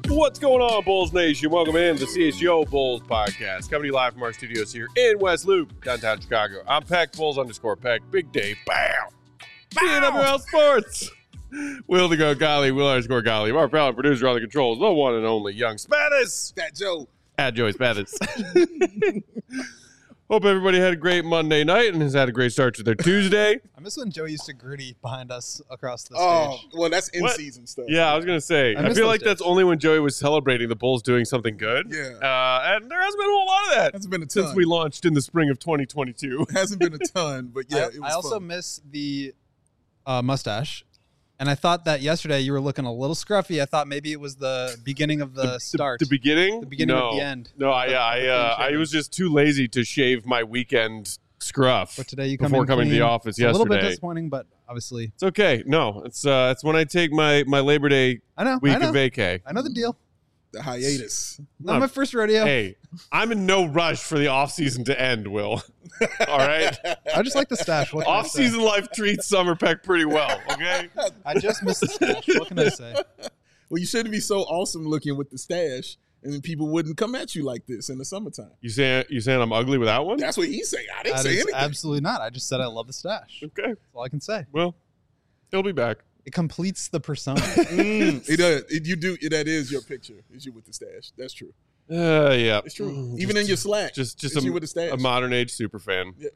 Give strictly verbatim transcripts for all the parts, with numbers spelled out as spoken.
What's going on, Bulls Nation? Welcome in to C H G O Bulls Podcast. Coming to you live from our studios here in West Loop, downtown Chicago. I'm Peck, Bulls underscore Peck. Big day, bam! B N W L Sports. Will to go, Golly, Will underscore Golly. Our proud producer on the controls, the one and only Young Spanis. Fat Joe. At Joey Spanis. Hope everybody had a great Monday night and has had a great start to their Tuesday. I miss when Joe used to gritty behind us across the Oh, stage. well, that's What? in-season stuff. Yeah, I was going to say, I I, miss feel those like that's days. only when Joey was celebrating the Bulls doing something good. Yeah. Uh, and there hasn't been a whole lot of that Hasn't been a since ton. we launched in the spring of twenty twenty-two. Hasn't been a ton, but yeah, I, it was I also fun. miss the uh, mustache. And I thought that yesterday you were looking a little scruffy. I thought maybe it was the beginning of the, start. The beginning? The beginning no. of the end. No, I, yeah, I, The uh, clean I shaven. was just too lazy to shave my weekend scruff But today you come before in coming to the clean. office It's a little bit yesterday. disappointing, but obviously. It's okay. No, it's uh, it's when I take my, my Labor Day I know. week I know. of vacay. I know the deal. The hiatus. Not my first rodeo. Hey, I'm in no rush for the off season to end, Will. All right? I just like the stash. What can I Off say? season life treats Summer Peck pretty well, okay? I just missed the stash. What can I say? Well, you shouldn't be so awesome looking with the stash, and then people wouldn't come at you like this in the summertime. You saying you saying I'm ugly without one? That's what he's saying. I didn't That say is anything. absolutely not. I just said I love the stash. Okay. That's all I can say. Well, he'll be back. It completes the persona. Mm, it does. It, you do. It, that is your picture. Is you with the stash? That's true. Uh, yeah. It's true. Mm, Even just- in your Slack, Just just it's a, you with the stash. a modern age super fan. Yeah.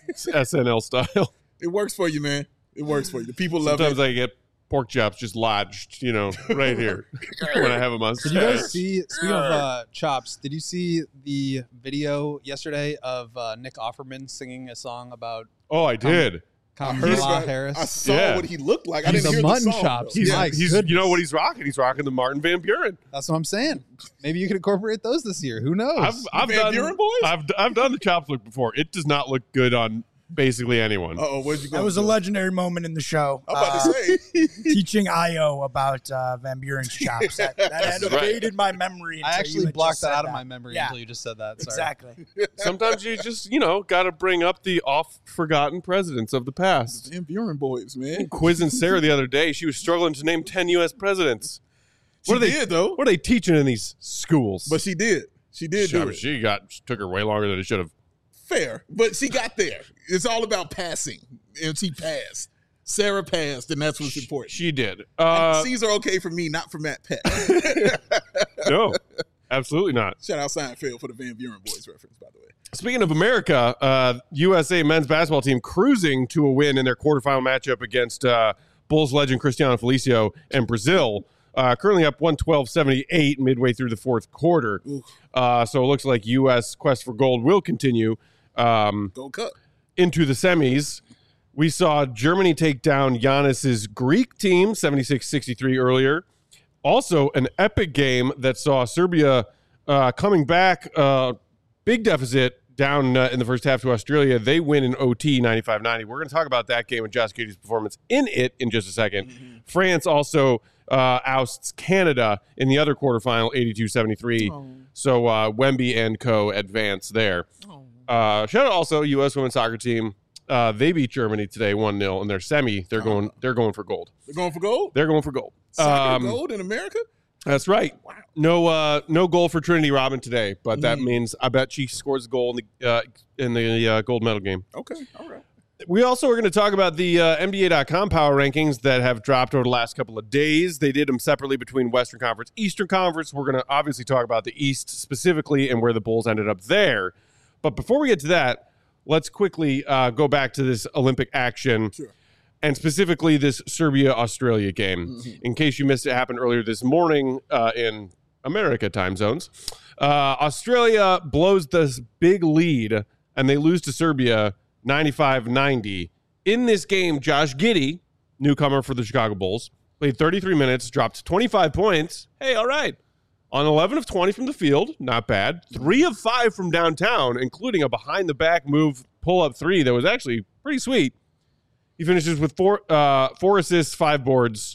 S N L style. It works for you, man. It works for you. The people love Sometimes it. I get pork chops just lodged, you know, right here when I have them on. Did you guys see, speaking of uh, chops, did you see the video yesterday of uh, Nick Offerman singing a song about Oh, I did. I heard Kamala about- Harris? I saw Yeah. what he looked like. I He's didn't a hear mutton the song, chops. though. He's, Yeah. My he's you goodness. know what he's rocking? He's rocking the Martin Van Buren. That's what I'm saying. Maybe you could incorporate those this year. Who knows? I've I've Van done Buren boys? I've I've done the chops look before. It does not look good on basically anyone. Uh-oh, where'd you go? That was a legendary moment in the show. I'm about Uh, to say. teaching I O about uh, Van Buren's chops. That, that had That's right. evaded my memory. I until you actually had blocked just that said out of that. my memory Yeah, until you just said that. Sorry. exactly. Sometimes you just, you know, got to bring up the oft forgotten presidents of the past. Van Buren boys, man. Quizzing Sarah the other day, she was struggling to name ten U S presidents. She What are they did, though. What are they teaching in these schools? But she did. She did she, do it. she got she took her way longer than it should have. Fair. But she got there. It's all about passing. And she passed. Sarah passed, and that's what's important. She did. Uh, C's are okay for me, not for Matt Peck. no, absolutely not. Shout out Seinfeld for the Van Buren boys reference, by the way. Speaking of America, uh, U S A men's basketball team cruising to a win in their quarterfinal matchup against uh, Bulls legend Cristiano Felicio and Brazil. Uh, currently up one twelve seventy-eight midway through the fourth quarter. Uh, so it looks like U S quest for gold will continue um, Gold Cup. into the semis. We saw Germany take down Giannis's Greek team seventy-six sixty-three earlier. Also, an epic game that saw Serbia uh, coming back, uh, big deficit down uh, in the first half to Australia. They win in O T ninety-five ninety. We're going to talk about that game and Josh Giddey's performance in it in just a second. Mm-hmm. France also uh, ousts Canada in the other quarterfinal, eighty-two seventy-three. Oh. So uh, Wemby and co advance there. Oh. Uh, shout out also U S women's soccer team. Uh, they beat Germany today one nil in their semi. They're going. They're going for gold. They're going for gold? They're going for gold. Soccer Um, gold in America? That's right. Wow. No, uh, no goal for Trinity Robin today, but that Mm. means I bet she scores a goal in the uh, in the uh, gold medal game. Okay. All right. We also are going to talk about the uh, N B A dot com power rankings that have dropped over the last couple of days. They did them separately between Western Conference, Eastern Conference. We're going to obviously talk about the East specifically and where the Bulls ended up there. But before we get to that, let's quickly uh, go back to this Olympic action. Sure. And specifically this Serbia-Australia game. Mm-hmm. In case you missed it, happened earlier this morning uh, in America time zones. Uh, Australia blows this big lead, and they lose to Serbia ninety-five ninety. In this game, Josh Giddey, newcomer for the Chicago Bulls, played thirty-three minutes, dropped twenty-five points. Hey, all right. On eleven of twenty from the field, not bad. Three of five from downtown, including a behind-the-back move pull-up three that was actually pretty sweet. He finishes with four uh, four assists, five boards,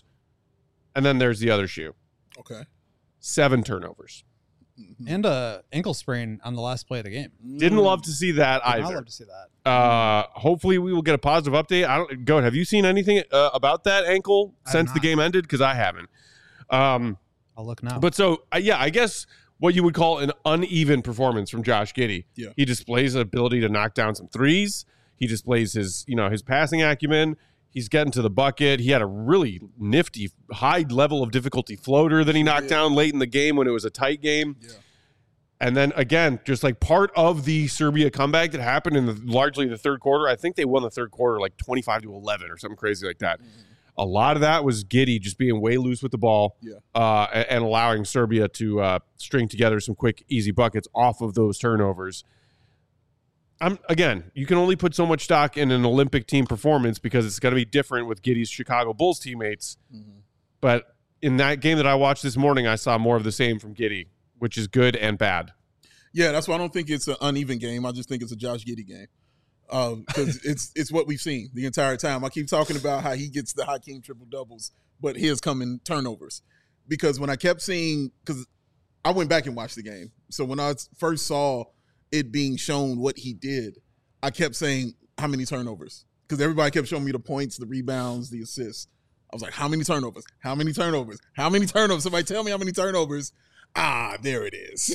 and then there's the other shoe. Okay. Seven turnovers. And a ankle sprain on the last play of the game. Didn't love to see that I'd either. love to see that. Uh, hopefully we will get a positive update. I don't go. Have you seen anything uh, about that ankle I have since the not. game ended? Because I haven't. Um, I'll look now. But so, uh, yeah, I guess what you would call an uneven performance from Josh Giddey. Yeah. He displays an ability to knock down some threes. He displays his, you know, his passing acumen. He's getting to the bucket. He had a really nifty, high level of difficulty floater that he knocked Yeah. down late in the game when it was a tight game. Yeah. And then again, just like part of the Serbia comeback that happened in the, largely the third quarter. I think they won the third quarter like twenty-five to eleven or something crazy like that. Mm-hmm. A lot of that was Giddey just being way loose with the ball, Yeah. uh, and, and allowing Serbia to uh, string together some quick, easy buckets off of those turnovers. I'm again, you can only put so much stock in an Olympic team performance because it's going to be different with Giddey's Chicago Bulls teammates. Mm-hmm. But in that game that I watched this morning, I saw more of the same from Giddey, which is good and bad. Yeah, that's why I don't think it's an uneven game. I just think it's a Josh Giddey game. Because um, it's it's what we've seen the entire time. I keep talking about how he gets the Hakeem triple doubles, but his come in turnovers. Because when I kept seeing, because I went back and watched the game, so when I first saw it being shown what he did, I kept saying how many turnovers? Because everybody kept showing me the points, the rebounds, the assists. I was like, how many turnovers? How many turnovers? How many turnovers? Somebody tell me how many turnovers. Ah, there it is.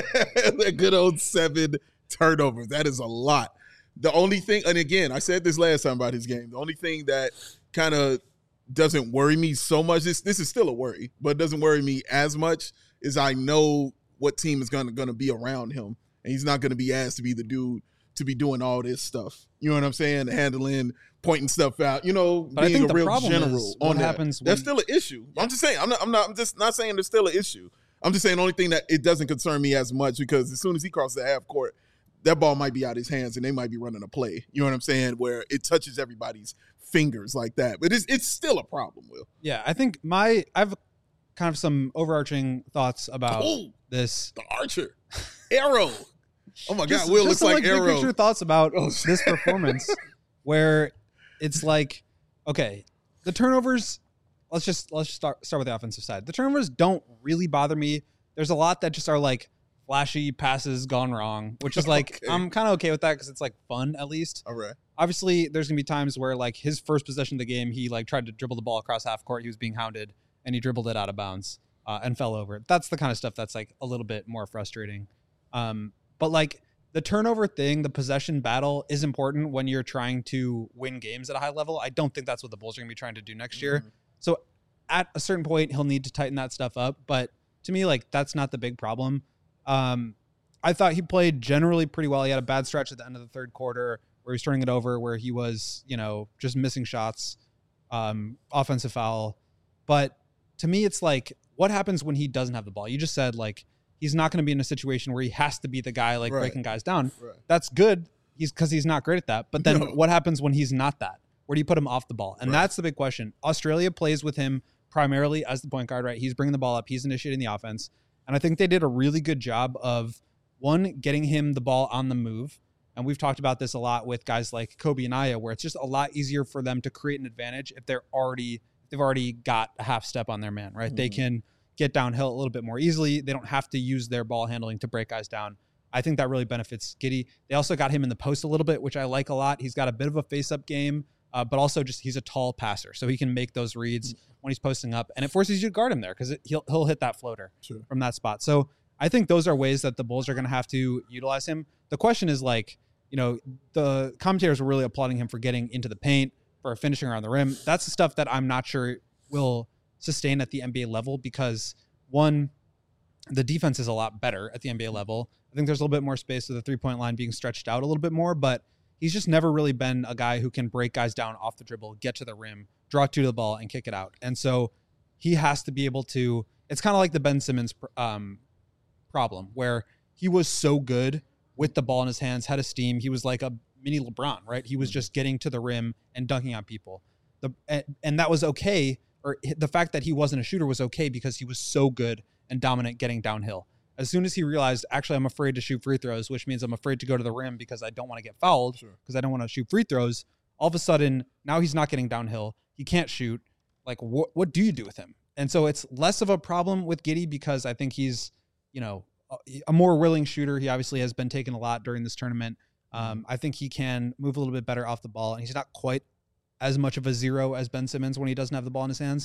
The good old seven turnovers. That is a lot. The only thing, and again, I said this last time about his game, the only thing that kind of doesn't worry me so much, this this is still a worry, but it doesn't worry me as much, is I know what team is going to going to be around him, and he's not going to be asked to be the dude to be doing all this stuff. You know what I'm saying? Handling, pointing stuff out, you know, but being I think a the real problem general is on what that. happens when, That's still an issue. I'm just saying, I'm not, I'm not, I'm just not saying there's still an issue. I'm just saying the only thing that it doesn't concern me as much, because as soon as he crosses the half court, that ball might be out of his hands and they might be running a play. You know what I'm saying? Where it touches everybody's fingers like that. But it's it's still a problem, Will. Yeah, I think my I have kind of some overarching thoughts about Ooh, this. the Archer. Arrow. Oh my Just, God, Will just looks some, like, like big Arrow. picture thoughts about Oh. this performance, where it's like, okay, the turnovers. Let's just let's start start with the offensive side. The turnovers don't really bother me. There's a lot that just are like flashy passes gone wrong, which is like, Okay. I'm kind of okay with that because it's like fun at least. All right. Obviously, there's gonna be times where like his first possession of the game, he like tried to dribble the ball across half court. He was being hounded and he dribbled it out of bounds uh, and fell over. That's the kind of stuff that's like a little bit more frustrating. Um, but like the turnover thing, the possession battle is important when you're trying to win games at a high level. I don't think that's what the Bulls are gonna be trying to do next year. Mhm. So at a certain point, he'll need to tighten that stuff up. But to me, like that's not the big problem. Um, I thought he played generally pretty well. He had a bad stretch at the end of the third quarter where he was turning it over, where he was, you know, just missing shots, um, offensive foul. But to me, it's like, what happens when he doesn't have the ball? You just said, like, he's not going to be in a situation where he has to be the guy, like, Right. breaking guys down. Right. That's good. He's because he's not great at that. But then No. what happens when he's not that? Where do you put him off the ball? And Right. that's the big question. Australia plays with him primarily as the point guard, right? He's bringing the ball up. He's initiating the offense. And I think they did a really good job of, one, getting him the ball on the move. And we've talked about this a lot with guys like Kobe and Aya, where it's just a lot easier for them to create an advantage if they're already, they've already got a half step on their man, right? Mm-hmm. They can get downhill a little bit more easily. They don't have to use their ball handling to break guys down. I think that really benefits Giddey. They also got him in the post a little bit, which I like a lot. He's got a bit of a face-up game, uh, but also just he's a tall passer, so he can make those reads when he's posting up, and it forces you to guard him there because he'll he'll hit that floater Sure. from that spot. So I think those are ways that the Bulls are going to have to utilize him. The question is, like, you know, the commentators were really applauding him for getting into the paint, for finishing around the rim. That's the stuff that I'm not sure will sustain at the N B A level because, one, the defense is a lot better at the N B A level. I think there's a little bit more space with the three-point line being stretched out a little bit more, but he's just never really been a guy who can break guys down off the dribble, get to the rim, draw two to the ball, and kick it out. And so he has to be able to – it's kind of like the Ben Simmons um, problem where he was so good with the ball in his hands, had a steam. He was like a mini LeBron, right? He was just getting to the rim and dunking on people. The and, and that was okay, or the fact that he wasn't a shooter was okay because he was so good and dominant getting downhill. As soon as he realized, actually, I'm afraid to shoot free throws, which means I'm afraid to go to the rim because I don't want to get fouled, because Sure. I don't want to shoot free throws. All of a sudden, now he's not getting downhill. He can't shoot. Like, what what do you do with him? And so it's less of a problem with Giddey because I think he's, you know, a, a more willing shooter. He obviously has been taken a lot during this tournament. Um, I think he can move a little bit better off the ball, and he's not quite as much of a zero as Ben Simmons when he doesn't have the ball in his hands.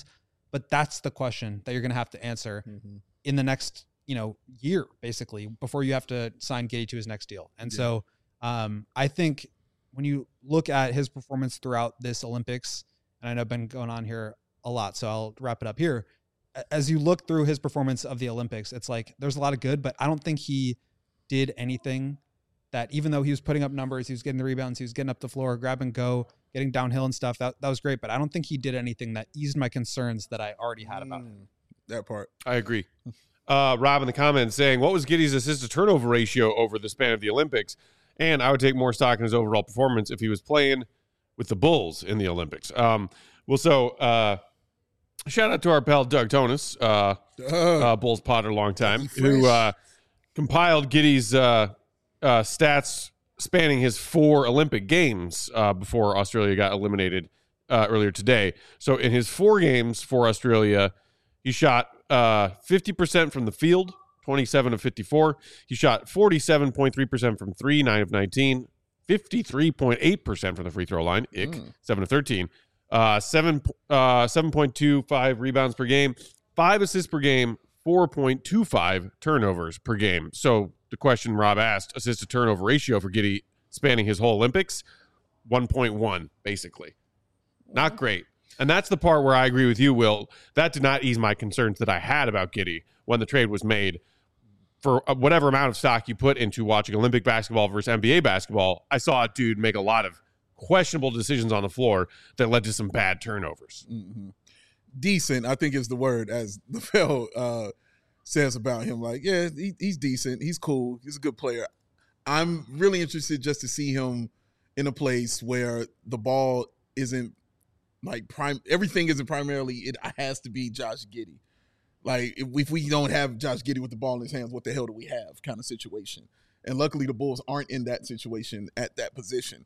but that's the question that you're going to have to answer mm-hmm. in the next, you know, year, basically, before you have to sign Giddey to his next deal. And yeah. so um, I think when you look at his performance throughout this Olympics, and I know I've been going on here a lot, so I'll wrap it up here. As you look through his performance of the Olympics, it's like there's a lot of good, but I don't think he did anything that, even though he was putting up numbers, he was getting the rebounds, he was getting up the floor, grab and go, getting downhill and stuff. That that was great, but I don't think he did anything that eased my concerns that I already had about him. That part. I agree. Uh, Rob in the comments saying, what was Giddey's assist to turnover ratio over the span of the Olympics? And I would take more stock in his overall performance if he was playing with the Bulls in the Olympics. Um, well, so uh, shout out to our pal Doug Tonis, uh, uh, Bulls Potter, long time, who uh, compiled Giddey's uh, uh, stats spanning his four Olympic games uh, before Australia got eliminated uh, earlier today. So in his four games for Australia, he shot uh, fifty percent from the field, twenty-seven of fifty-four. He shot forty-seven point three percent from three, nine of nineteen, fifty-three point eight percent from the free throw line, ick, mm. seven of thirteen. Uh, seven, uh, seven point two five rebounds per game, five assists per game, four point two five turnovers per game. So the question Rob asked, assist to turnover ratio for Giddey spanning his whole Olympics, one point one, basically. Not great. And that's the part where I agree with you, Will. That did not ease my concerns that I had about Giddey when the trade was made. For whatever amount of stock you put into watching Olympic basketball versus N B A basketball, I saw a dude make a lot of questionable decisions on the floor that led to some bad turnovers. Mm-hmm. Decent, I think, is the word, as the Phil uh, says about him. Like, yeah, he, he's decent. He's cool. He's a good player. I'm really interested just to see him in a place where the ball isn't like prime. Everything isn't primarily, it has to be Josh Giddey. Like, if, if we don't have Josh Giddey with the ball in his hands, what the hell do we have kind of situation? And luckily the Bulls aren't in that situation at that position.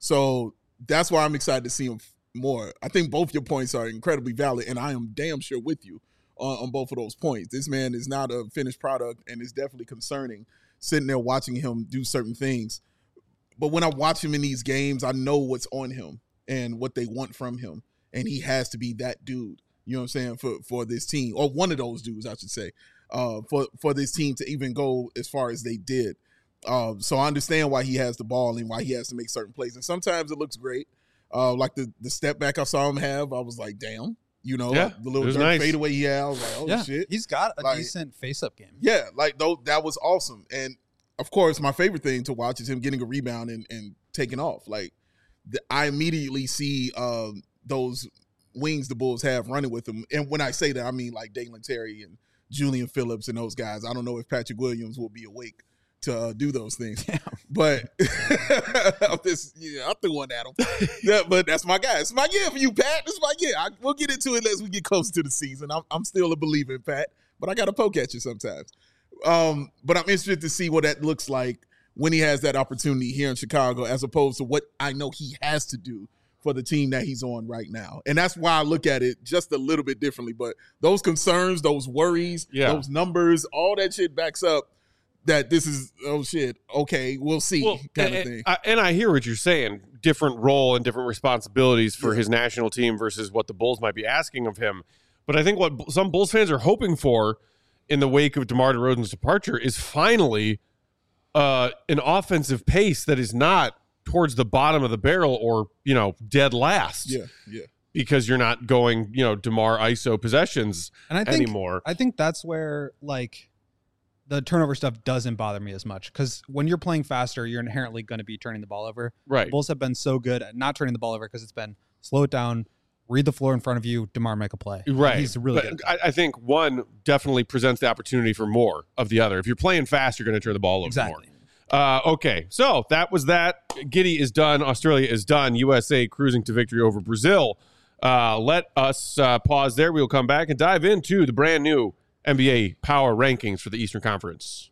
So that's why I'm excited to see him more. I think both your points are incredibly valid, and I am damn sure with you on, on both of those points. This man is not a finished product, and it's definitely concerning sitting there watching him do certain things. But when I watch him in these games, I know what's on him and what they want from him, and he has to be that dude. You know what I'm saying, for, for this team, or one of those dudes, I should say, uh, for, for this team to even go as far as they did. Uh, so I understand why he has the ball and why he has to make certain plays. And sometimes it looks great. Uh, like the, the step back I saw him have, I was like, damn. You know, yeah, like the little nice. fadeaway he had, I was like, oh, yeah, shit. He's got a like, decent face-up game. Yeah, like though, that was awesome. And, of course, my favorite thing to watch is him getting a rebound and, and taking off. Like, the, I immediately see um, those – wings the Bulls have running with them. And when I say that, I mean like Dalen Terry and Julian Phillips and those guys. I don't know if Patrick Williams will be awake to uh, do those things. Damn. But I'm just, yeah, I threw one at him. Yeah, but that's my guy. It's my year for you, Pat. It's my year. I, we'll get into it as we get closer to the season. I'm, I'm still a believer in Pat, but I got to poke at you sometimes. Um, but I'm interested to see what that looks like when he has that opportunity here in Chicago, as opposed to what I know he has to do for the team that he's on right now. And that's why I look at it just a little bit differently. But those concerns, those worries, yeah. those numbers, all that shit backs up that this is, oh shit, okay, we'll see well, kind and, of thing. I, and I hear what you're saying, different role and different responsibilities for yeah. his national team versus what the Bulls might be asking of him. But I think what some Bulls fans are hoping for in the wake of DeMar DeRozan's departure is finally uh, an offensive pace that is not towards the bottom of the barrel or, you know, dead last. Yeah, yeah. Because you're not going, you know, DeMar I S O possessions and I think, anymore. I think that's where, like, the turnover stuff doesn't bother me as much, because when you're playing faster, you're inherently going to be turning the ball over. Right. The Bulls have been so good at not turning the ball over because it's been slow it down, read the floor in front of you, DeMar make a play. Right. He's really but good. I, I think one definitely presents the opportunity for more of the other. If you're playing fast, you're going to turn the ball over exactly. more. Uh, okay, so that was that. Giddey is done. Australia is done. U S A cruising to victory over Brazil. Uh, let us uh, pause there. We'll come back and dive into the brand new N B A power rankings for the Eastern Conference.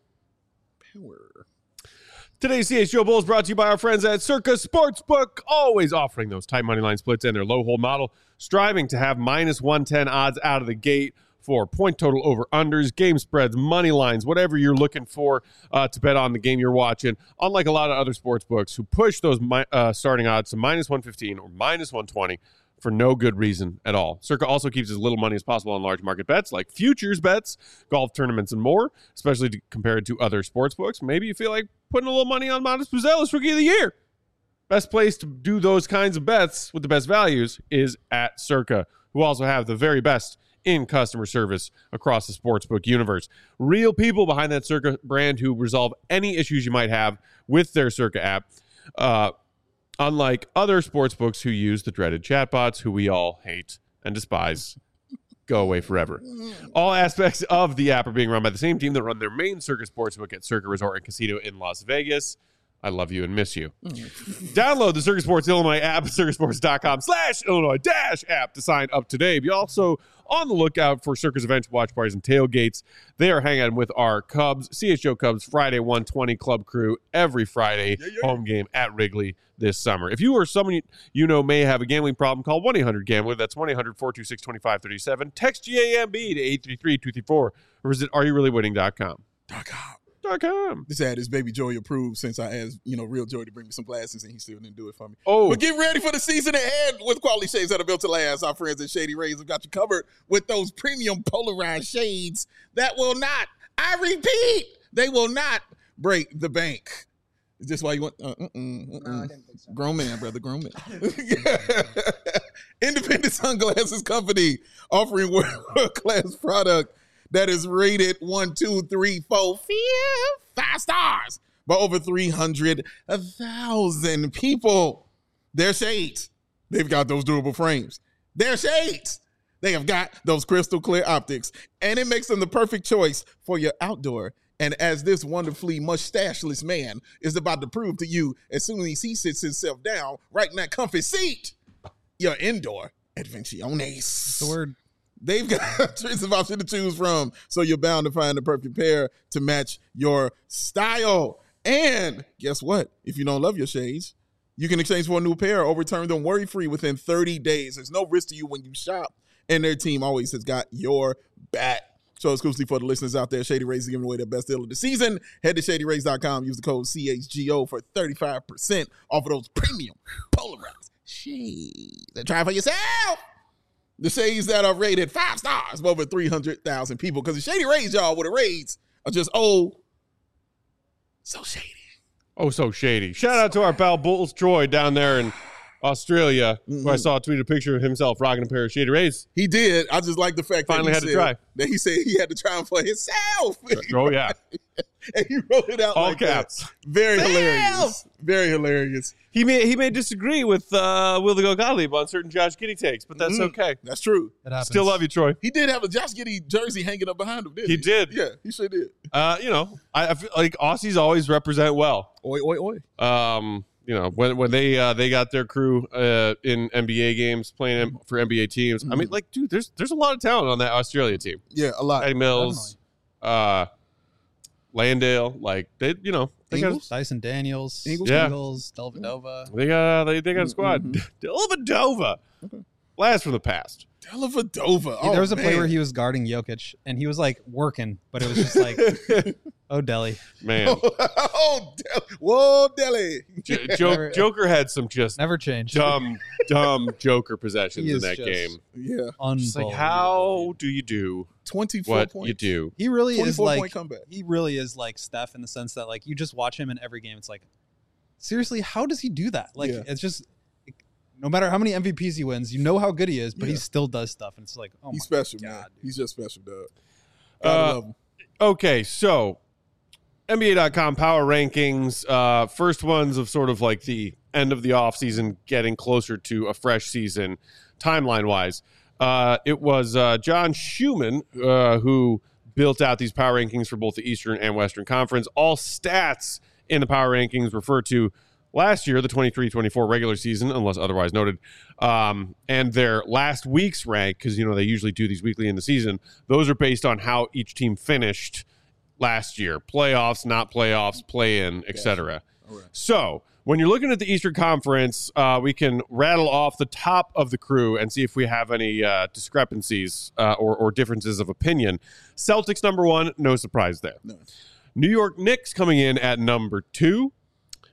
Power. Today's C H G O Bulls brought to you by our friends at Circa Sportsbook, always offering those tight money line splits and their low hold model, striving to have minus one ten odds out of the gate for point total over unders, game spreads, money lines, whatever you're looking for uh, to bet on the game you're watching. Unlike a lot of other sports books who push those mi- uh, starting odds to minus one fifteen or minus one twenty for no good reason at all. Circa also keeps as little money as possible on large market bets like futures bets, golf tournaments, and more, especially to, compared to other sports books. Maybe you feel like putting a little money on Montes Puzelis Rookie of the Year. Best place to do those kinds of bets with the best values is at Circa, who also have the very best in customer service across the sportsbook universe. Real people behind that Circa brand who resolve any issues you might have with their Circa app. Uh, unlike other sportsbooks who use the dreaded chatbots who we all hate and despise. Go away forever. All aspects of the app are being run by the same team that run their main Circa Sportsbook at Circa Resort and Casino in Las Vegas. I love you and miss you. Download the Circa Sports Illinois app at circasports.com slash Illinois dash app to sign up today. Be also on the lookout for Circa's events, watch parties, and tailgates. They are hanging out with our Cubs, C H O Cubs Friday one twenty Club Crew every Friday yeah, yeah. home game at Wrigley this summer. If you or someone you know may have a gambling problem, call one eight hundred gambler. That's one eight hundred four two six two five three seven. Text G A M B to eight three three two three four or visit are you really winning dot com. Dot com. Com. This ad is Baby Joy approved since I asked, you know, Real Joy to bring me some glasses and he still didn't do it for me. Oh. But get ready for the season ahead with quality shades that are built to last. Our friends at Shady Rays have got you covered with those premium polarized shades that will not, I repeat, they will not break the bank. Is this why you want? Uh, mm-mm, mm-mm. No, I didn't think so. Grown man, brother, grown man. Independent Sunglasses Company offering world-class product that is rated one, two, three, four, five stars by over three hundred thousand people. They're shades. They've got those durable frames. They're shades. They have got those crystal clear optics, and it makes them the perfect choice for your outdoor. And as this wonderfully mustacheless man is about to prove to you, as soon as he sits himself down right in that comfy seat, your indoor adventiones. The word. They've got tons of options to choose from, so you're bound to find the perfect pair to match your style. And guess what? If you don't love your shades, you can exchange for a new pair or return them worry-free within thirty days. There's no risk to you when you shop, and their team always has got your back. So exclusively for the listeners out there, Shady Rays is giving away their best deal of the season. Head to shady rays dot com, use the code C H G O for thirty-five percent off of those premium polarized shades. And try it for yourself. The shades that are rated five stars by over three hundred thousand people. Because the Shady Rays, y'all, with the raids are just, oh, so shady. Oh, so shady. Shout out to our pal Bulls Troy down there in Australia, mm-hmm. who I saw tweet a picture of himself rocking a pair of Shady Rays. He did. I just like the fact Finally that he had said, to try. that he said he had to try them for himself. Oh, yeah. And he wrote it out all like caps. That. Very Fail! hilarious. Very hilarious. He may he may disagree with uh, Will the Go Gottlieb on certain Josh Giddey takes, but that's mm, okay. That's true. Still love you, Troy. He did have a Josh Giddey jersey hanging up behind him, didn't he? He did. Yeah, he sure did. Uh, you know, I, I feel like Aussies always represent well. Oi, oi, oi. Um, you know, when when they uh, they got their crew uh, in N B A games playing for N B A teams. Mm-hmm. I mean, like, dude, there's there's a lot of talent on that Australia team. Yeah, a lot. Eddie Mills, uh, Landale, like they, you know, they Ingles? got Dyson Daniels, Ingles, yeah. Ingles, Dellavedova. They got they they got a squad. Mm-hmm. Dellavedova, okay. Blast from the past. Dellavedova. Oh, yeah, there was a man. play where he was guarding Jokic, and he was like working, but it was just like, oh, Delly, man. oh, Delly. Whoa, Delly. J- Joker, Joker had some just never changed. Dumb, dumb Joker possessions in that game. Yeah, just like how do you do twenty-four what points. you do? He really is like point comeback. He really is like Steph in the sense that like you just watch him in every game. It's like, seriously, how does he do that? Like yeah. it's just. No matter how many M V Ps he wins, you know how good he is, but yeah. he still does stuff. And it's like, oh, he's my special, God, man. dude. He's just special, dog. Uh, love him. Okay, so N B A dot com power rankings. Uh, first ones of sort of like the end of the offseason, getting closer to a fresh season, timeline wise. Uh, it was uh, John Schumann uh, who built out these power rankings for both the Eastern and Western Conference. All stats in the power rankings refer to last year, the twenty-three twenty-four regular season, unless otherwise noted, um, and their last week's rank, because, you know, they usually do these weekly in the season, those are based on how each team finished last year. Playoffs, not playoffs, play-in, et cetera. Right. So when you're looking at the Eastern Conference, uh, we can rattle off the top of the crew and see if we have any uh, discrepancies uh, or, or differences of opinion. Celtics, number one, no surprise there. No. New York Knicks coming in at number two.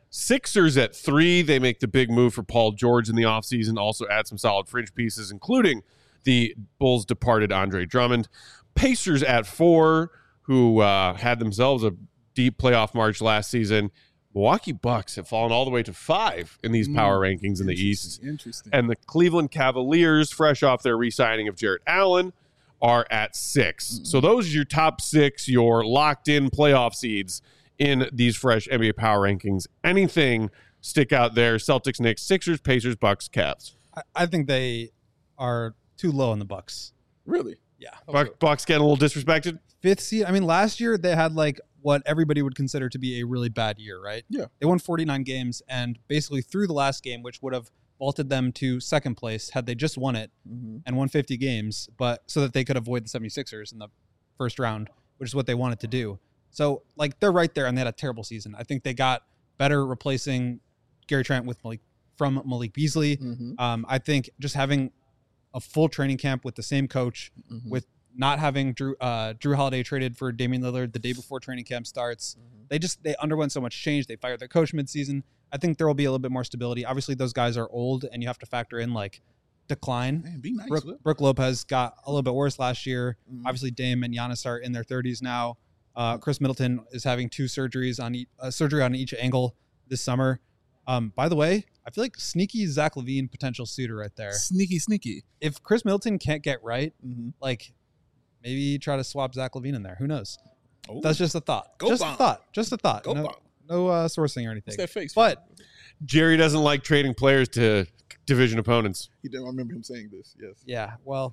Sixers at three. They make the big move for Paul George in the offseason, also add some solid fringe pieces, including the Bulls' departed Andre Drummond. Pacers at four, who uh, had themselves a deep playoff march last season. Milwaukee Bucks have fallen all the way to five in these power mm, rankings in the East. Interesting. And the Cleveland Cavaliers, fresh off their re-signing of Jarrett Allen, are at six. Mm-hmm. So those are your top six, your locked-in playoff seeds in these fresh N B A power rankings. Anything stick out there? Celtics, Knicks, Sixers, Pacers, Bucks, Cavs. I, I think they are too low in the Bucks. Really? Yeah. Okay. Bucks getting a little disrespected? Fifth seed. I mean, last year they had like what everybody would consider to be a really bad year, right? Yeah. They won forty-nine games and basically through the last game, which would have vaulted them to second place had they just won it mm-hmm. and won fifty games, but so that they could avoid the seventy-sixers in the first round, which is what they wanted to do. So, like, they're right there, and they had a terrible season. I think they got better replacing Gary Trent with Malik from Malik Beasley. Mm-hmm. Um, I think just having a full training camp with the same coach, mm-hmm. with not having Drew uh, Drew Holiday traded for Damian Lillard the day before training camp starts. Mm-hmm. They just they underwent so much change. They fired their coach midseason. I think there will be a little bit more stability. Obviously, those guys are old, and you have to factor in like decline. Man, be nice. Brooke, Brooke Lopez got a little bit worse last year. Mm-hmm. Obviously, Dame and Giannis are in their thirties now. Uh, Chris Middleton is having two surgeries on each, uh, surgery on each ankle this summer. Um, by the way, I feel like sneaky Zach LaVine potential suitor right there. Sneaky, sneaky. If Chris Middleton can't get right, mm-hmm. like maybe try to swap Zach LaVine in there. Who knows? Oh. That's just a thought. Go just bomb. a thought. Just a thought. Go no bomb. no uh, sourcing or anything. What's that face? But Jerry doesn't like trading players to division opponents. He did. I remember him saying this. Yes. Yeah. Well,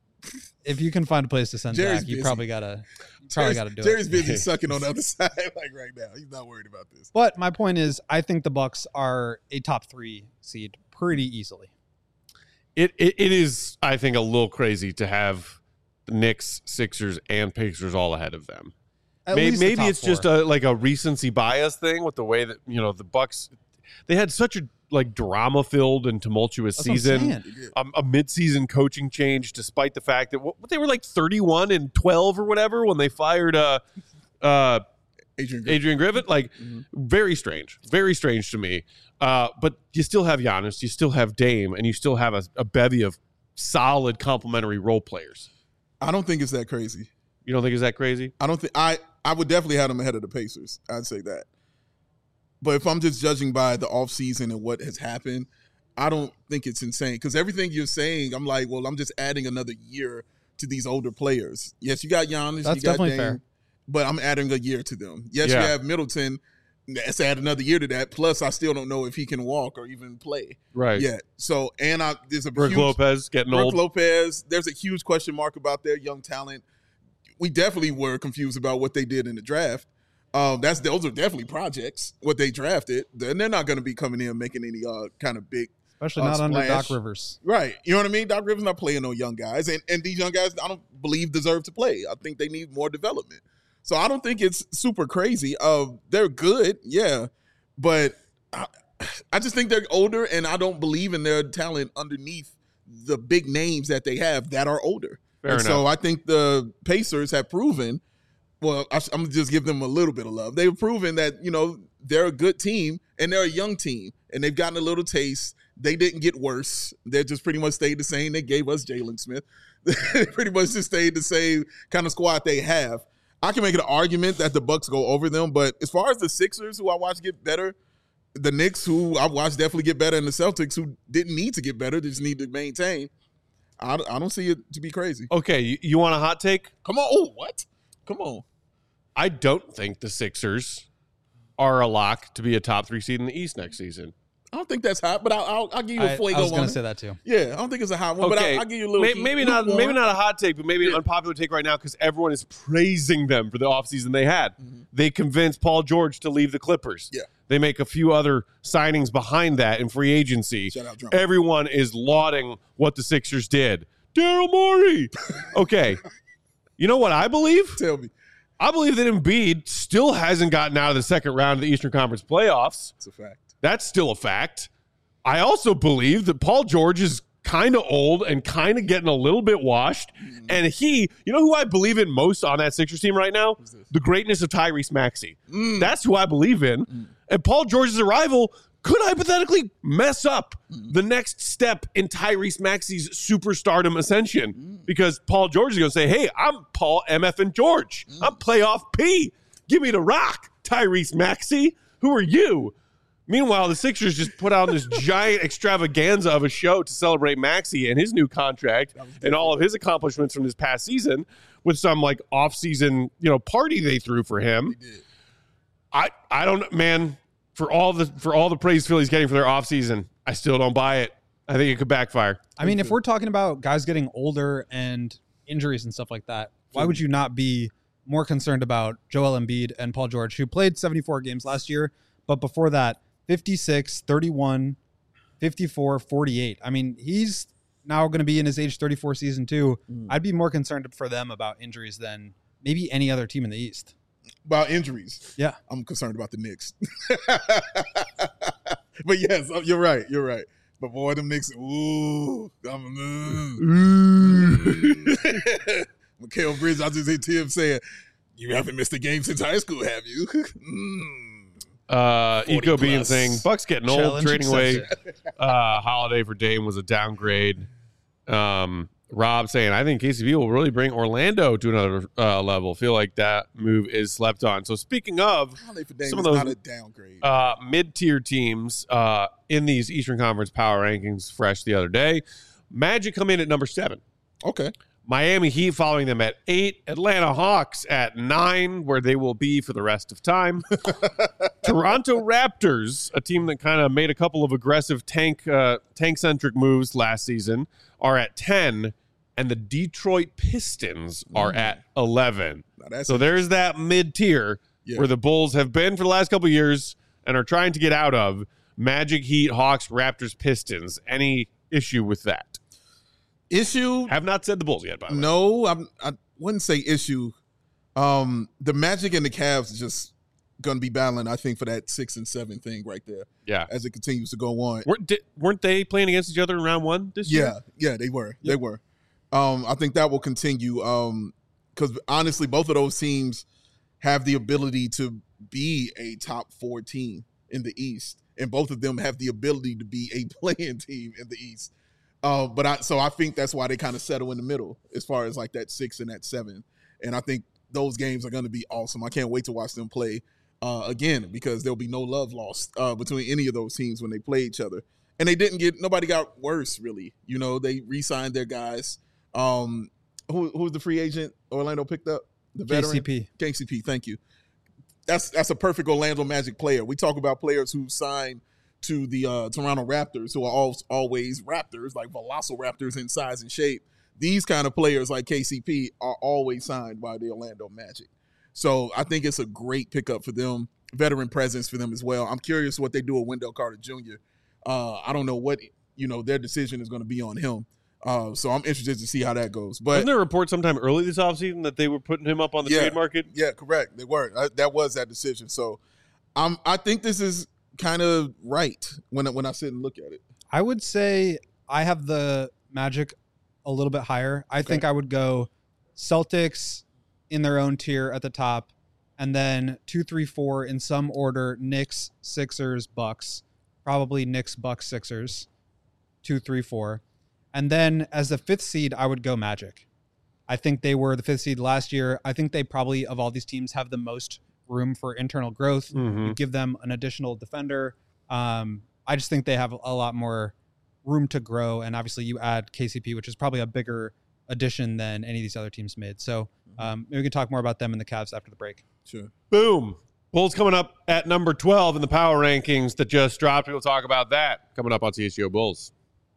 if you can find a place to send Jerry's Zach, you busy. probably gotta you probably gotta do Jerry's it. busy sucking on the other side like right now. He's not worried about this. But my point is, I think the Bucks are a top three seed pretty easily. It it, it is, I think, a little crazy to have the Knicks, Sixers, and Pacers all ahead of them. At maybe least the maybe top it's four. just a like a recency bias thing with the way that, you know, the Bucks, they had such a like drama filled and tumultuous That's what I'm season, saying. um, a mid-season coaching change, despite the fact that what, they were like thirty-one and twelve or whatever when they fired uh, uh, Adrian Griffin. Adrian Griffin. Like mm-hmm. very strange, very strange to me. Uh, but you still have Giannis, you still have Dame, and you still have a, a bevy of solid complementary role players. I don't think it's that crazy. You don't think it's that crazy? I don't think I. I would definitely have them ahead of the Pacers. I'd say that. But if I'm just judging by the offseason and what has happened, I don't think it's insane. Because everything you're saying, I'm like, well, I'm just adding another year to these older players. Yes, you got Giannis. That's you got definitely Dame, fair. But I'm adding a year to them. Yes, Yeah. you have Middleton. Let's add another year to that. Plus, I still don't know if he can walk or even play Right. yet. So, and I, there's a Brooke huge, Lopez getting Brooke old. Lopez. There's a huge question mark about their young talent. We definitely were confused about what they did in the draft. Um, that's those are definitely projects. What they drafted, and they're not going to be coming in making any uh, kind of big, Especially uh, not under splash. Doc Rivers. Right? You know what I mean? Doc Rivers not playing no young guys, and and these young guys I don't believe deserve to play. I think they need more development. So I don't think it's super crazy. Uh, they're good, yeah, but I, I just think they're older, and I don't believe in their talent underneath the big names that they have that are older. Fair and enough. so I think the Pacers have proven. Well, I, I'm gonna just give them a little bit of love. They've proven that, you know, they're a good team and they're a young team and they've gotten a little taste. They didn't get worse. They just pretty much stayed the same. They gave us Jalen Smith. They pretty much just stayed the same kind of squad they have. I can make an argument that the Bucks go over them, but as far as the Sixers, who I watched get better, the Knicks, who I watched definitely get better, and the Celtics, who didn't need to get better, they just need to maintain. I, I don't see it to be crazy. Okay, you, you want a hot take? Come on. Oh, what? Come on. I don't think the Sixers are a lock to be a top three seed in the East next season. I don't think that's hot, but I'll, I'll, I'll give you a I, fuego I was on going to it. say that too. Yeah, I don't think it's a hot one, but Okay, I'll, I'll give you a little. Maybe, maybe not. lukewarm. Maybe not a hot take, but maybe Yeah. an unpopular take right now because everyone is praising them for the offseason they had. Mhm. They convinced Paul George to leave the Clippers. Yeah. They make a few other signings behind that in free agency. Shout out Drummond. Everyone is lauding what the Sixers did. Daryl Morey. Okay. You know what I believe? Tell me, I believe that Embiid still hasn't gotten out of the second round of the Eastern Conference playoffs. it's a fact. That's still a fact. I also believe that Paul George is kind of old and kind of getting a little bit washed. Mm-hmm. And he, you know who I believe in most on that Sixers team right now? The greatness of Tyrese Maxey. Mm. That's who I believe in. Mm. And Paul George's arrival could hypothetically mess up Mm. the next step in Tyrese Maxey's superstardom ascension Mm. because Paul George is going to say, hey, I'm Paul M F and George. Mm. I'm playoff P. Give me the rock, Tyrese Maxey. Who are you? Meanwhile, the Sixers just put out this giant extravaganza of a show to celebrate Maxey and his new contract and all of his accomplishments from this past season with some like off-season, you know, party they threw for him. They did. I I don't man, for all the for all the praise Philly's getting for their offseason, I still don't buy it. I think it could backfire. I mean, if we're talking about guys getting older and injuries and stuff like that, why would you not be more concerned about Joel Embiid and Paul George, who played seventy-four games last year, but before that, fifty-six, thirty-one, fifty-four, forty-eight. I mean, he's now going to be in his age thirty-four season too. Mm. I'd be more concerned for them about injuries than maybe any other team in the East. About injuries. Yeah. I'm concerned about the Knicks. But yes, you're right. You're right. But boy, them Knicks, ooh. I'm, mm. Mikal Bridges, I just hear Tim saying, you haven't missed a game since high school, have you? mm. Uh, Eco Bean plus. saying, Bucks getting old, Challenge trading away accepted. uh, Holiday for Dame was a downgrade. Um, Rob saying, I think K C P will really bring Orlando to another uh, level. Feel like that move is slept on. So speaking of Holiday for Dame some is of those not a downgrade. uh, mid-tier teams uh, in these Eastern Conference power rankings fresh the other day, Magic come in at number seven. Okay. Miami Heat following them at eight. Atlanta Hawks at nine, where they will be for the rest of time. Toronto Raptors, a team that kind of made a couple of aggressive tank uh, tank-centric moves last season, are at ten. And the Detroit Pistons are Mm. at eleven. Now that's So there's that mid-tier Yeah. where the Bulls have been for the last couple of years and are trying to get out of. Magic, Heat, Hawks, Raptors, Pistons. Any issue with that? issue. Have not said the Bulls yet, by the way. No, I'm, I wouldn't say issue. Um, the Magic and the Cavs is just going to be battling, I think, for that six and seven thing right there Yeah. as it continues to go on. Weren't, di- weren't they playing against each other in round one this year? Yeah, yeah, they were. They were. Um, I think that will continue. Um, because honestly, both of those teams have the ability to be a top four team in the East, and both of them have the ability to be a playing team in the East. Uh, but I so I think that's why they kind of settle in the middle as far as like that six and that seven. And I think those games are going to be awesome. I can't wait to watch them play uh, again because there'll be no love lost uh, between any of those teams when they play each other. And they didn't get nobody got worse really. You know, they re-signed their guys. Um, who who's the free agent Orlando picked up? The K veteran C P. K C P. Thank you. That's that's a perfect Orlando Magic player. We talk about players who signed to the uh, Toronto Raptors, who are all, always Raptors, like Velociraptors in size and shape. These kind of players like K C P are always signed by the Orlando Magic. So I think it's a great pickup for them, veteran presence for them as well. I'm curious what they do with Wendell Carter Junior Uh, I don't know what, you know, their decision is going to be on him. Uh, so I'm interested to see how that goes. But Wasn't there a report sometime early this offseason that they were putting him up on the Yeah. trade market? yeah, correct. They were. Uh, that was that decision. So I'm, I think this is kind of right when I, when I sit and look at it. I would say I have the Magic a little bit higher. I think I would go Celtics in their own tier at the top, and then two, three, four in some order: Knicks, Sixers, Bucks. Probably Knicks, Bucks, Sixers. Two, three, four, and then as the fifth seed, I would go Magic. I think they were the fifth seed last year. I think they probably of all these teams have the most room for internal growth. Mhm. You give them an additional defender. Um, I just think they have a lot more room to grow. And obviously you add K C P, which is probably a bigger addition than any of these other teams made. So um, maybe we can talk more about them and the Cavs after the break. Sure. Boom. Bulls coming up at number twelve in the power rankings that just dropped. We'll talk about that coming up on C H G O Bulls.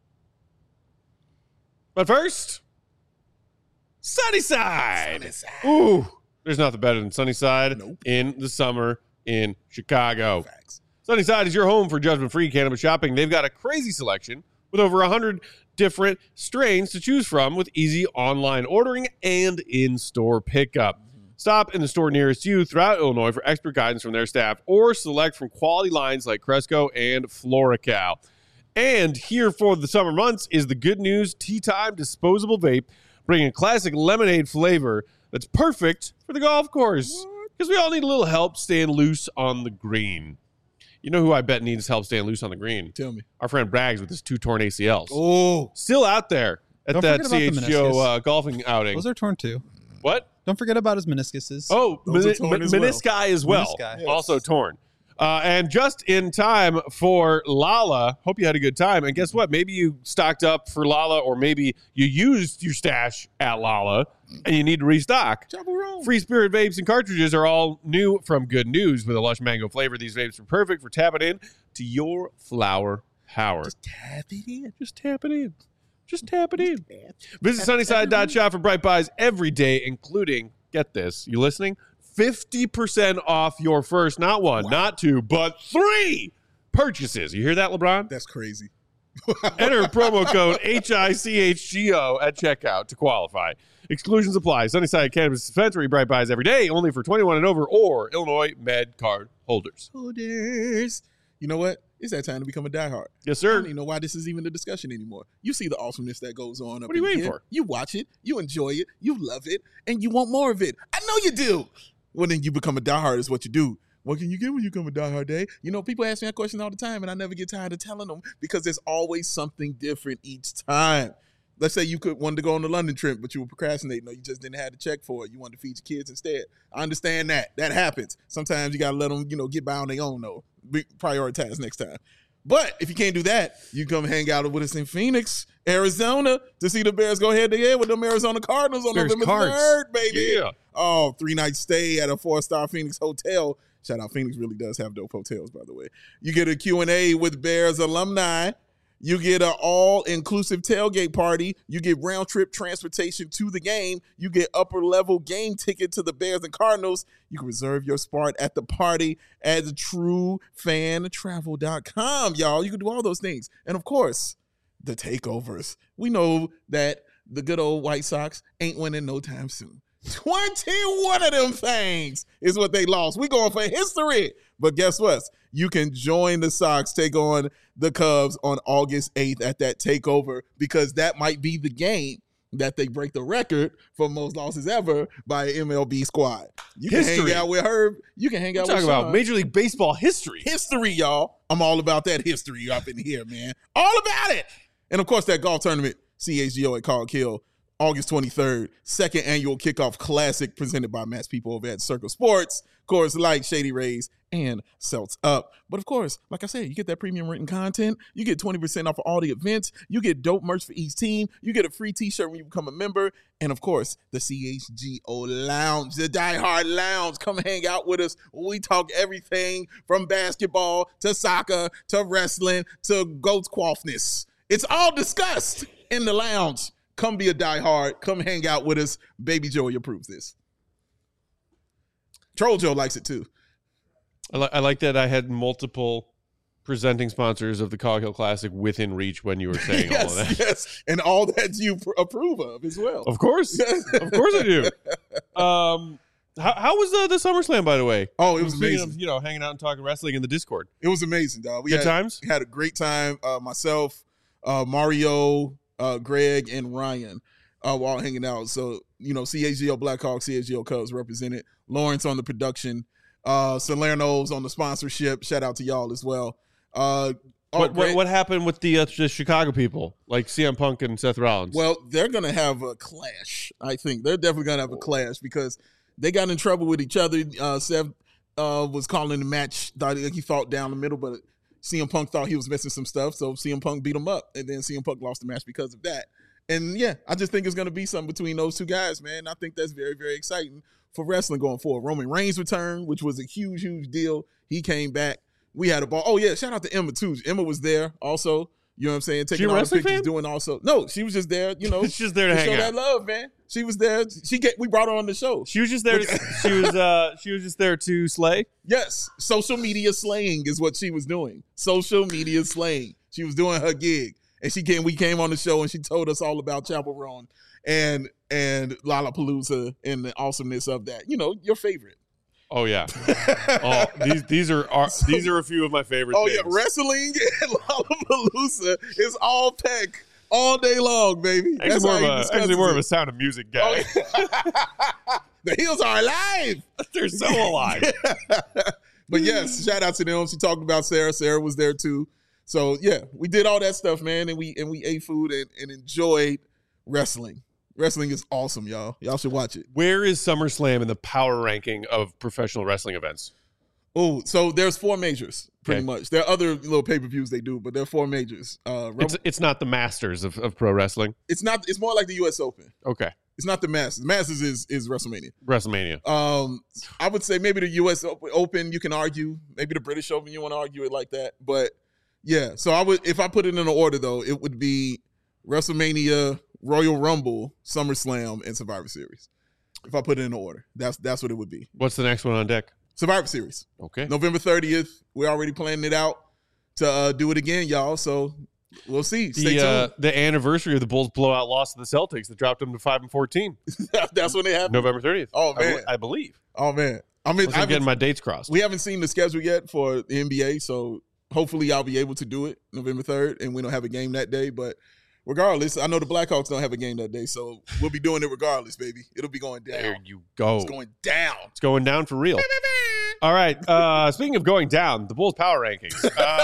But first, Sunnyside. Sunnyside. Ooh, there's nothing better than Sunnyside Nope. in the summer in Chicago. Facts. Sunnyside is your home for judgment-free cannabis shopping. They've got a crazy selection with over one hundred different strains to choose from with easy online ordering and in-store pickup. Stop in the store nearest you throughout Illinois for expert guidance from their staff or select from quality lines like Cresco and Florical. And here for the summer months is the Good News Tea Time disposable vape, bringing a classic lemonade flavor that's perfect for the golf course because we all need a little help staying loose on the green. You know who I bet needs help staying loose on the green? Tell me. Our friend Braggs with his two torn A C Ls. Oh, Still out there at Don't that forget C about the H G O meniscus. uh, golfing outing. Those are torn too. What? Don't forget about his meniscuses. Oh, Those are meni- torn men- as well. menisci as well. Menisci. Yes. Also torn. Uh, and just in time for Lala. Hope you had a good time. And guess what? Maybe you stocked up for Lala, or maybe you used your stash at Lala and you need to restock. Chaperone. Free Spirit vapes and cartridges are all new from Good News with a lush mango flavor. These vapes are perfect for tapping in to your flower power. Just tap it in. Just tap it in. Just tap it in. Visit sunnyside dot shop for bright buys every day, including, get this, you listening? fifty percent off your first, not one, not two, but three purchases. You hear that, LeBron? That's crazy. Enter promo code H I C H G O at checkout to qualify. Exclusions apply. Sunnyside Cannabis Dispensary, bright buys every day, only for twenty-one and over, or Illinois Med card holders. Holders. You know what? It's that time to become a diehard. Yes, I sir. don't even know why this is even a discussion anymore. You see the awesomeness that goes on. Up What are you in waiting here. for? You watch it, you enjoy it, you love it, and you want more of it. I know you do. Well, then you become a diehard is what you do. What can you get when you become a diehard, Dave? You know, people ask me that question all the time, and I never get tired of telling them because there's always something different each time. Let's say you could wanted to go on the London trip, but you were procrastinating, or you just didn't have the check for it. You wanted to feed your kids instead. I understand that. That happens. Sometimes you got to let them, you know, get by on their own, though. Be- prioritize next time. But if you can't do that, you come hang out with us in Phoenix, Arizona, to see the Bears go head to head with them Arizona Cardinals on Bears November Cards. third, baby. Yeah. Oh, three-night stay at a four-star Phoenix hotel. Shout out, Phoenix really does have dope hotels, by the way. You get a Q and A with Bears alumni. You get an all-inclusive tailgate party. You get round-trip transportation to the game. You get upper-level game ticket to the Bears and Cardinals. You can reserve your spot at the party at true fan travel dot com, y'all. You can do all those things. And, of course, the takeovers. We know that the good old White Sox ain't winning no time soon. twenty-one of them things is what they lost. We going for history. But guess what? You can join the Sox, take on the Cubs on August eighth at that takeover, because that might be the game that they break the record for most losses ever by an M L B squad. You can History. hang out with Herb. You can hang We're out talking with Sean. about Major League Baseball history. History, y'all. I'm all about that history up in here, man. All about it. And, of course, that golf tournament, C H G O at Cog Hill, August twenty-third, second annual kickoff classic presented by Matt's people over at Circle Sports. Of course, like Shady Rays and Celts Up. But of course, like I said, you get that premium written content. You get twenty percent off of all the events. You get dope merch for each team. You get a free t-shirt when you become a member. And of course, the C H G O Lounge, the Die Hard Lounge. Come hang out with us. We talk everything from basketball to soccer to wrestling to goat's quaffness. It's all discussed in the lounge. Come be a diehard. Come hang out with us. Baby Joey approves this. Troll Joe likes it too. I, li- I like that I had multiple presenting sponsors of the Cog Hill Classic within reach when you were saying all of yes, that. yes. And all that you pr- approve of as well. Of course. Of course I do. Um, how, how was uh, the SummerSlam, by the way? Oh, it was Speaking amazing. of, you know, hanging out and talking wrestling in the Discord. It was amazing, dog. We Good had, times? we had a great time. Uh, myself, uh, Mario, uh, Greg, and Ryan uh, were all hanging out. So, you know, C H G O Blackhawks, C H G O Cubs represented. Lawrence on the production. Uh, Salerno's on the sponsorship. Shout out to y'all as well. Uh, oh, what, what Greg- what happened with the, uh, the Chicago people, like C M Punk and Seth Rollins? Well, they're going to have a clash, I think. They're definitely going to have a clash because they got in trouble with each other. Uh, Seth uh, was calling the match. Thought he fought down the middle, but C M Punk thought he was missing some stuff, so C M Punk beat him up, and then C M Punk lost the match because of that. And, yeah, I just think it's going to be something between those two guys, man. I think that's very, very exciting for wrestling going forward. Roman Reigns returned, which was a huge, huge deal. He came back. We had a ball. Oh, yeah, shout out to Emma, too. Emma was there also. You know what I'm saying? Taking a all the wrestling pictures, fan? doing also. No, she was just there, you know. She's just there to hang show out. that love, man. She was there. She get. We brought her on the show. She was just there. To, she was uh, she was just there to slay. Yes, social media slaying is what she was doing. Social media slaying. She was doing her gig, and she came. We came on the show, and she told us all about Chapel Roan and and Lollapalooza and the awesomeness of that. You know, your favorite. Oh yeah. Oh, these these are, are So- these are a few of my favorite. Oh things. yeah, wrestling and Lollapalooza is all tech all day long, baby. Actually, That's more how of he a, discusses actually more of it. a Sound of Music guy. Oh, the heels are alive. They're so alive. But yes, shout out to them. She talked about Sarah. Sarah was there too. So yeah, we did all that stuff, man, and we and we ate food and, and enjoyed wrestling. Wrestling is awesome, y'all. Y'all should watch it. Where is SummerSlam in the power ranking of professional wrestling events? Oh, so there's four majors, pretty Okay. much. There are other little pay-per-views they do, but there are four majors. Uh, Rumble, It's it's not the Masters of, of pro wrestling. it's not. It's more like the U S Open. Okay. It's not the Masters. The Masters is is WrestleMania. WrestleMania. Um, I would say maybe the U S Open. You can argue. Maybe the British Open. You want to argue it like that, but yeah. So I would, if I put it in an order though, it would be WrestleMania, Royal Rumble, SummerSlam, and Survivor Series. If I put it in order, that's that's what it would be. What's the next one on deck? Survivor Series, Okay. November thirtieth. We're already planning it out to uh, do it again, y'all. So we'll see. Stay The uh, tuned. the anniversary of the Bulls blowout loss to the Celtics that dropped them to five and fourteen. That's when it happened. November thirtieth. Oh, I, man. be- I believe. Oh man, I mean, Unless I I'm getting haven't- my dates crossed. we haven't seen the schedule yet for the N B A, so hopefully I'll be able to do it November third, and we don't have a game that day. But regardless, I know the Blackhawks don't have a game that day, so we'll be doing it regardless, baby. It'll be going down. There you go. It's going down. It's going down for real. All right. Uh, speaking of going down, the Bulls power rankings.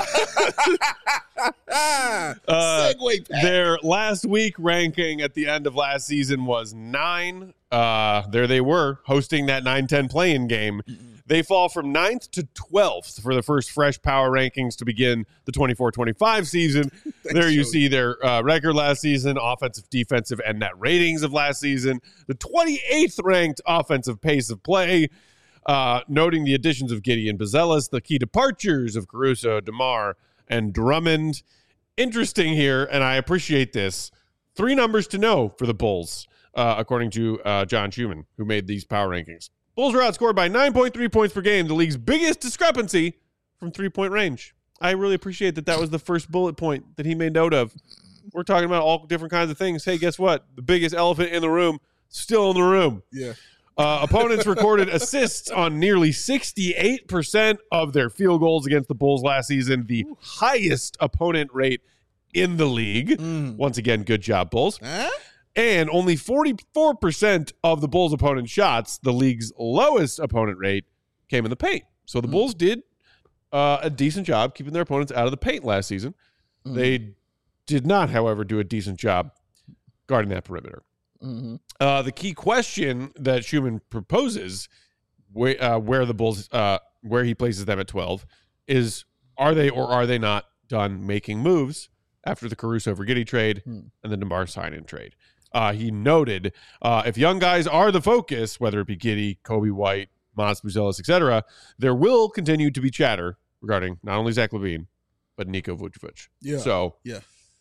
Uh, Ah, Uh, segue, Pat. their last week ranking at the end of last season was nine. Uh, there they were hosting that nine ten play-in game. They fall from ninth to twelfth for the first fresh power rankings to begin the twenty-four twenty-five season. There you Joey. see their uh, record last season, offensive, defensive, and net ratings of last season. The twenty-eighth ranked offensive pace of play, uh, noting the additions of Gideon Bazelis, the key departures of Caruso, DeMar, and Drummond. Interesting here, and I appreciate this. Three numbers to know for the Bulls, uh, according to uh, John Schumann, who made these power rankings. Bulls were outscored by nine point three points per game, the league's biggest discrepancy from three-point range. I really appreciate that that was the first bullet point that he made note of. We're talking about all different kinds of things. Hey, guess what? The biggest elephant in the room, still in the room. Yeah. Uh, opponents recorded assists on nearly sixty-eight percent of their field goals against the Bulls last season, the highest opponent rate in the league. Mm. Once again, good job, Bulls. Huh? And only forty-four percent of the Bulls' opponent shots, the league's lowest opponent rate, came in the paint. So the Mm. Bulls did uh, a decent job keeping their opponents out of the paint last season. Mm. They did not, however, do a decent job guarding that perimeter. Mm-hmm. Uh, the key question that Schumann proposes, where, uh, where the Bulls, uh, where he places them at twelve, is are they or are they not done making moves after the Caruso for Giddey trade Hmm. and the DeMar sign-in trade? Uh, he noted uh, if young guys are the focus, whether it be Giddey, Kobe White, Mons Buzelis, et cetera, there will continue to be chatter regarding not only Zach LaVine, but Niko Vucevic. Yeah. So, Yeah.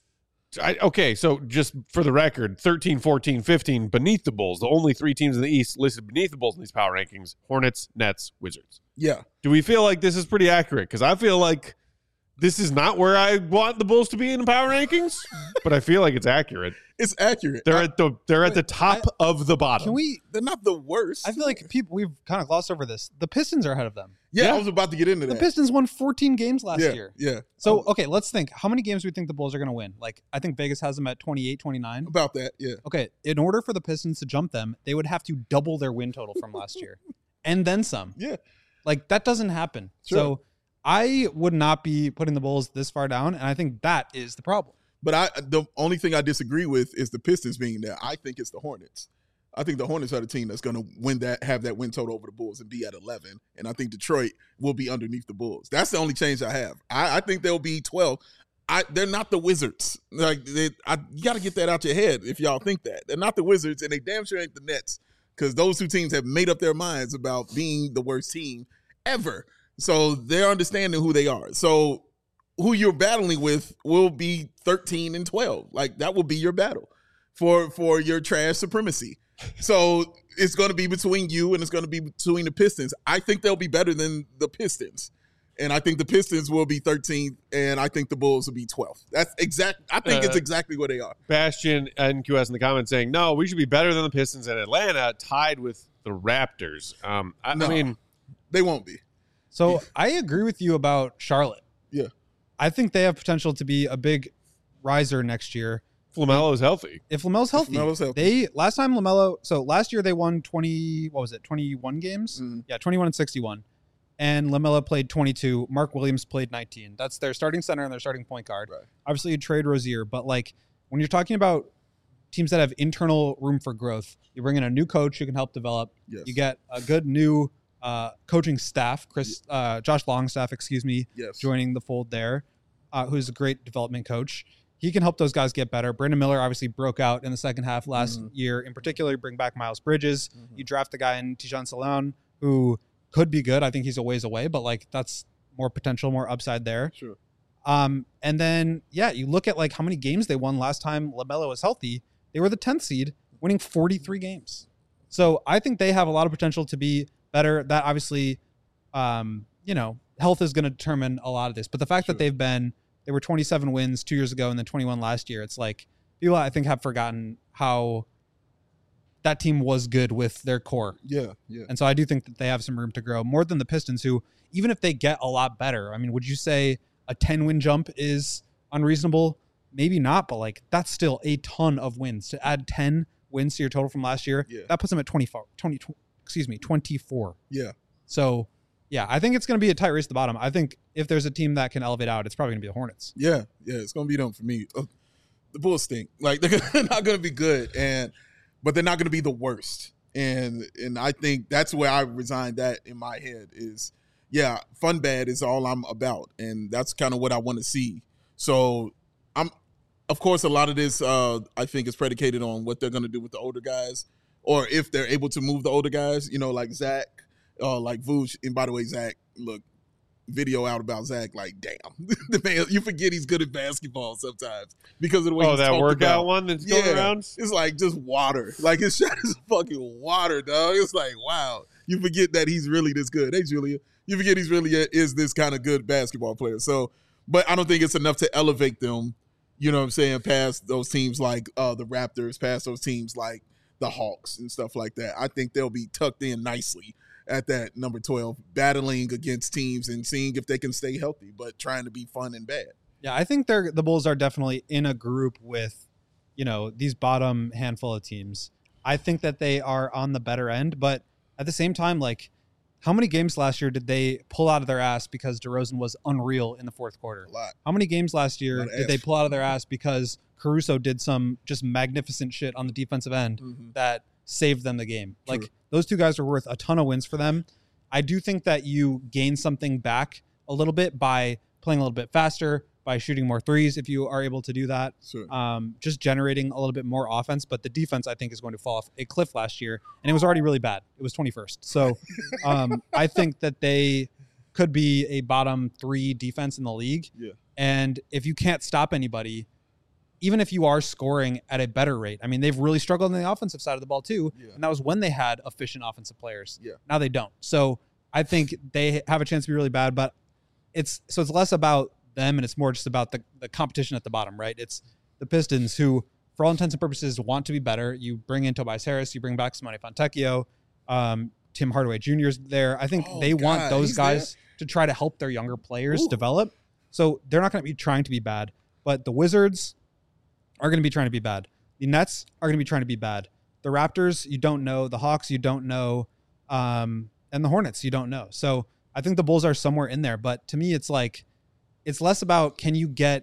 I, okay, so just for the record, thirteen, fourteen, fifteen beneath the Bulls. The only three teams in the East listed beneath the Bulls in these power rankings: Hornets, Nets, Wizards. Yeah. Do we feel like this is pretty accurate? Because I feel like this is not where I want the Bulls to be in the power rankings, but I feel like it's accurate. It's accurate. They're I- at the they're at the top of the bottom. Can we? they're not the worst. I feel like people we've kind of glossed over this. The Pistons are ahead of them. yeah, Yeah. I was about to get into The that. Pistons won fourteen games last yeah, year. Yeah. So Um, okay, let's think. How many games do we think the Bulls are going to win? Like I think Vegas has them at twenty-eight, twenty-nine. about that. Yeah. Okay, in order for the Pistons to jump them, they would have to double their win total from last year, and then some. Yeah. Like that doesn't happen. Sure. So I would not be putting the Bulls this far down, and I think that is the problem. But I the only thing I disagree with is the Pistons being there. I think it's the Hornets. I think the Hornets are the team that's going to win that, have that win total over the Bulls and be at eleven. And I think Detroit will be underneath the Bulls. That's the only change I have. I, I think they'll be twelve. I they're not the Wizards. Like they, I, you got to get that out your head if y'all think that they're not the Wizards, and they damn sure ain't the Nets because those two teams have made up their minds about being the worst team ever. So they're understanding who they are. So who you're battling with will be thirteen and twelve. Like that will be your battle for for your trash supremacy. So it's going to be between you and it's going to be between the Pistons. I think they'll be better than the Pistons. And I think the Pistons will be thirteenth and I think the Bulls will be twelfth. That's exact. I think Uh, it's exactly where they are. Bastion N Q S in the comments saying, no, we should be better than the Pistons and Atlanta, tied with the Raptors. Um, I, No. I mean, They won't be. So I agree with you about Charlotte. Yeah. I think they have potential to be a big riser next year. LaMelo is healthy. If LaMelo's healthy, LaMelo's healthy. they last time LaMelo. So last year they won twenty. What was it? Twenty-one games. Mhm. Yeah, twenty-one and sixty-one. and LaMelo played twenty-two. Mark Williams played nineteen. That's their starting center and their starting point guard. Right. Obviously, you trade Rozier, but like when you're talking about teams that have internal room for growth, you bring in a new coach who can help develop. Yes. You get a good new uh, coaching staff, Chris, uh, Josh Longstaff, excuse me, Yes. joining the fold there, uh, who's a great development coach. He can help those guys get better. Brandon Miller obviously broke out in the second half last Mhm. year. In particular, you bring back Miles Bridges. Mhm. You draft a guy in Tijan Salon who could be good. I think he's a ways away, but like that's more potential, more upside there. Sure. Um, and then, yeah, you look at like how many games they won last time LaMelo was healthy. They were the tenth seed, winning forty-three games. So I think they have a lot of potential to be better. That obviously, um, you know, health is going to determine a lot of this. But the fact Sure. that they've been, they were twenty-seven wins two years ago and then twenty-one last year. It's like people I think have forgotten how that team was good with their core. Yeah. Yeah. And so I do think that they have some room to grow more than the Pistons, who, even if they get a lot better, I mean, would you say a ten win jump is unreasonable? Maybe not, but like that's still a ton of wins. To add ten wins to your total from last year, Yeah. that puts them at twenty-four, twenty, excuse me, twenty-four. Yeah. So yeah, I think it's going to be a tight race at the bottom. I think if there's a team that can elevate out, it's probably going to be the Hornets. Yeah, yeah, it's gonna be them for me. Uh, the Bulls stink. Like they're not gonna be good, and but they're not gonna be the worst. And and I think that's where I resigned that in my head is, yeah, fun bad is all I'm about, and that's kind of what I want to see. So I'm, of course, a lot of this uh, I think is predicated on what they're gonna do with the older guys, or if they're able to move the older guys. You know, like Zach, uh, like Vooch. And by the way, Zach, look. Video out about Zach, like, damn, the man, you forget he's good at basketball sometimes because of the way Oh, he's that talked workout about. one that's going Yeah. around? It's like just water. Like his shot is fucking water, dog. It's like, wow. You forget that he's really this good. Hey, Julia. You forget he's really a, is this kind of good basketball player. So, but I don't think it's enough to elevate them, you know what I'm saying, past those teams like uh, the Raptors, past those teams like the Hawks and stuff like that. I think they'll be tucked in nicely at that number twelve, battling against teams and seeing if they can stay healthy, but trying to be fun and bad. Yeah, I think they're the Bulls are definitely in a group with, you know, these bottom handful of teams. I think that they are on the better end, but at the same time, like, how many games last year did they pull out of their ass because DeRozan was unreal in the fourth quarter? A lot. How many games last year Lot of did they ass. pull out of their ass because Caruso did some just magnificent shit on the defensive end Mhm. that saved them the game? True. Like, those two guys are worth a ton of wins for them. I do think that you gain something back a little bit by playing a little bit faster, by shooting more threes if you are able to do that. Sure. Um, just generating a little bit more offense. But the defense, I think, is going to fall off a cliff last year. And it was already really bad. It was twenty-first. So um, I think that they could be a bottom three defense in the league. Yeah. And if you can't stop anybody, even if you are scoring at a better rate, I mean, they've really struggled on the offensive side of the ball too. Yeah. And that was when they had efficient offensive players. Yeah. Now they don't. So I think they have a chance to be really bad, but it's, so it's less about them and it's more just about the, the competition at the bottom, right? It's the Pistons who, for all intents and purposes, want to be better. You bring in Tobias Harris, you bring back Simone Fontecchio, um, Tim Hardaway Junior's there. I think Oh, they want God, those he's guys to try to help their younger players Ooh. develop. So they're not going to be trying to be bad, but the Wizards are going to be trying to be bad. The Nets are going to be trying to be bad. The Raptors, you don't know. The Hawks, you don't know. Um, and the Hornets, you don't know. So I think the Bulls are somewhere in there. But to me, it's like, it's less about can you get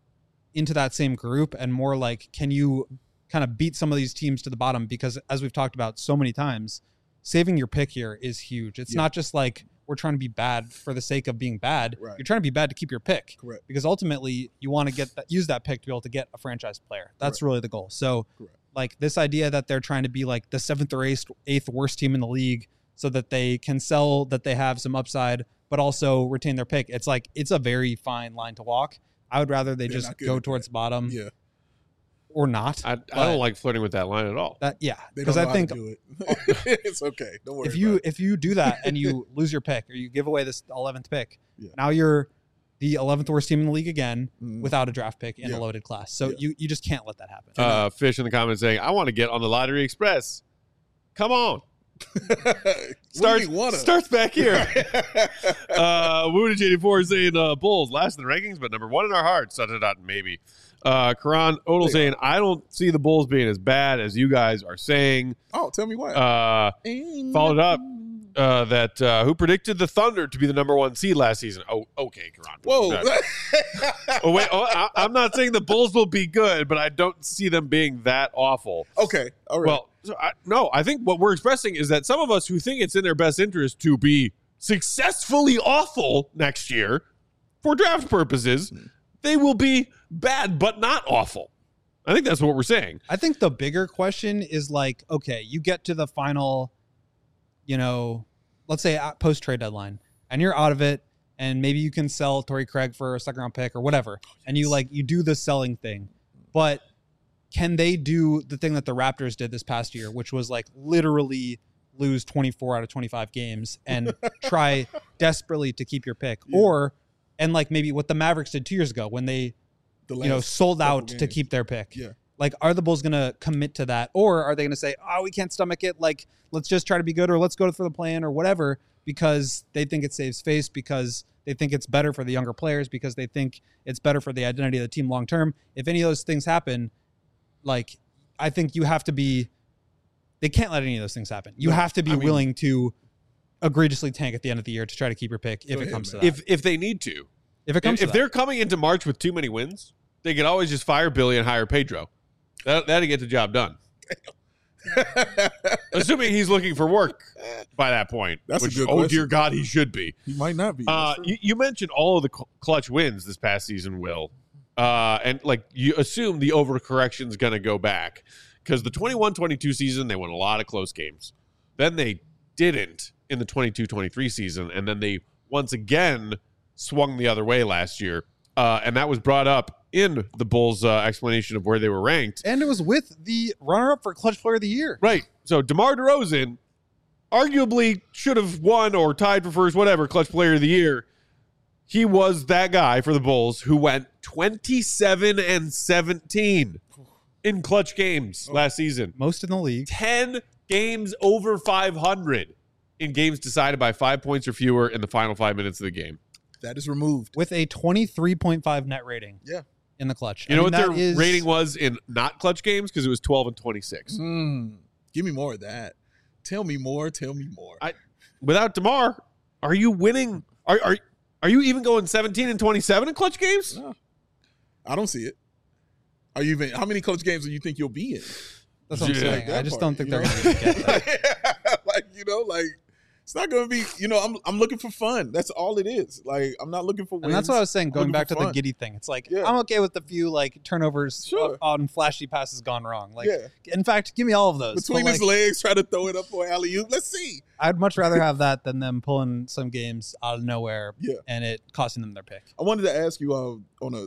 into that same group and more like, can you kind of beat some of these teams to the bottom? Because as we've talked about so many times, saving your pick here is huge. It's Yeah. not just like we're trying to be bad for the sake of being bad. Right. You're trying to be bad to keep your pick. Correct. Because ultimately you want to get that, use that pick to be able to get a franchise player. That's Correct. really the goal. So Correct. like this idea that they're trying to be like the seventh or eighth, eighth worst team in the league so that they can sell that they have some upside, but also retain their pick. It's like, it's a very fine line to walk. I would rather they They're just not good go at towards that. the bottom Yeah. or not. I, I But don't like flirting with that line at all. that. Yeah. They Because don't know I how think to do it. It's okay. Don't worry if you about it. if you do that and you lose your pick or you give away this eleventh pick, Yeah. now you're the eleventh worst team in the league again Mhm. without a draft pick in Yeah. a loaded class. So Yeah. you, you just can't let that happen. Uh, Fish in the comments saying, I want to get on the Lottery Express. Come on. Starts, What do you wanna? starts back here. uh, Woodage eighty-four is saying uh, Bulls last in the rankings, but number one in our hearts. Dot, dot, dot, maybe. Uh, Karan Odell They saying, I don't see the Bulls being as bad as you guys are saying. Oh, tell me why. Uh, followed up. uh, that uh, who predicted the Thunder to be the number one seed last season. Oh, okay, Karan. Whoa. oh wait, oh, I, I'm not saying the Bulls will be good, but I don't see them being that awful. Okay, all right. Well, so I, no, I think what we're expressing is that some of us who think it's in their best interest to be successfully awful next year for draft purposes, they will be bad but not awful. I think that's what we're saying. I think the bigger question is like, okay, you get to the final, you know, let's say post trade deadline, and you're out of it, and maybe you can sell Torrey Craig for a second round pick or whatever, and you like you do the selling thing, but can they do the thing that the Raptors did this past year, which was like literally lose twenty-four out of twenty-five games and try desperately to keep your pick, yeah. or and like maybe what the Mavericks did two years ago when they, the you know, sold out games. to keep their pick. Yeah. Like, are the Bulls going to commit to that, or are they going to say, "Oh, we can't stomach it. Like, let's just try to be good, or let's go for the plan, or whatever," because they think it saves face, because they think it's better for the younger players, because they think it's better for the identity of the team long term. If any of those things happen, like, I think you have to be. They can't let any of those things happen. You no, have to be I mean, willing to egregiously tank at the end of the year to try to keep your pick if it ahead, comes man. to that. If if they need to. If it comes if, to if that. they're coming into March with too many wins, they could always just fire Billy and hire Pedro. That, that'd get the job done. Assuming he's looking for work by that point. That's which, a good oh, question. dear God, he should be. He might not be. Uh, you, you mentioned all of the cl- clutch wins this past season, Will. Uh, and, like, you assume the overcorrection's going to go back. Because the twenty-one twenty-two season, they won a lot of close games. Then they didn't in the twenty-two twenty-three season. And then they once again swung the other way last year. Uh, and that was brought up in the Bulls' uh, explanation of where they were ranked. And it was with the runner-up for Clutch Player of the Year. Right. So DeMar DeRozan arguably should have won or tied for first, whatever, Clutch Player of the Year. He was that guy for the Bulls who went twenty-seven and seventeen in clutch games last season. Most in the league. ten games over five hundred in games decided by five points or fewer in the final five minutes of the game. That is removed. With a twenty-three point five net rating. Yeah. In the clutch. You I know mean, what their is... rating was in not clutch games? Because it was twelve and twenty-six. Mm, give me more of that. Tell me more. Tell me more. I, without DeMar, are you winning? Are are are you even going seventeen and twenty-seven in clutch games? No. I don't see it. Are you even? How many clutch games do you think you'll be in? That's what I'm Yeah. saying. Like I just part, don't think you they're know? going to get that. Like, you know, like it's not going to be. You know, I'm I'm looking for fun. That's all it is. Like I'm not looking for wins. And that's what I was saying, I'm going looking back for to the fun. Giddy thing. It's like, Yeah. I'm okay with the few like turnovers Sure. on flashy passes gone wrong. Like, Yeah. in fact, give me all of those. Between But, his like, legs, try to throw it up for alley oop. Let's see. I'd much rather have that than them pulling some games out of nowhere Yeah. and it costing them their pick. I wanted to ask you uh, on a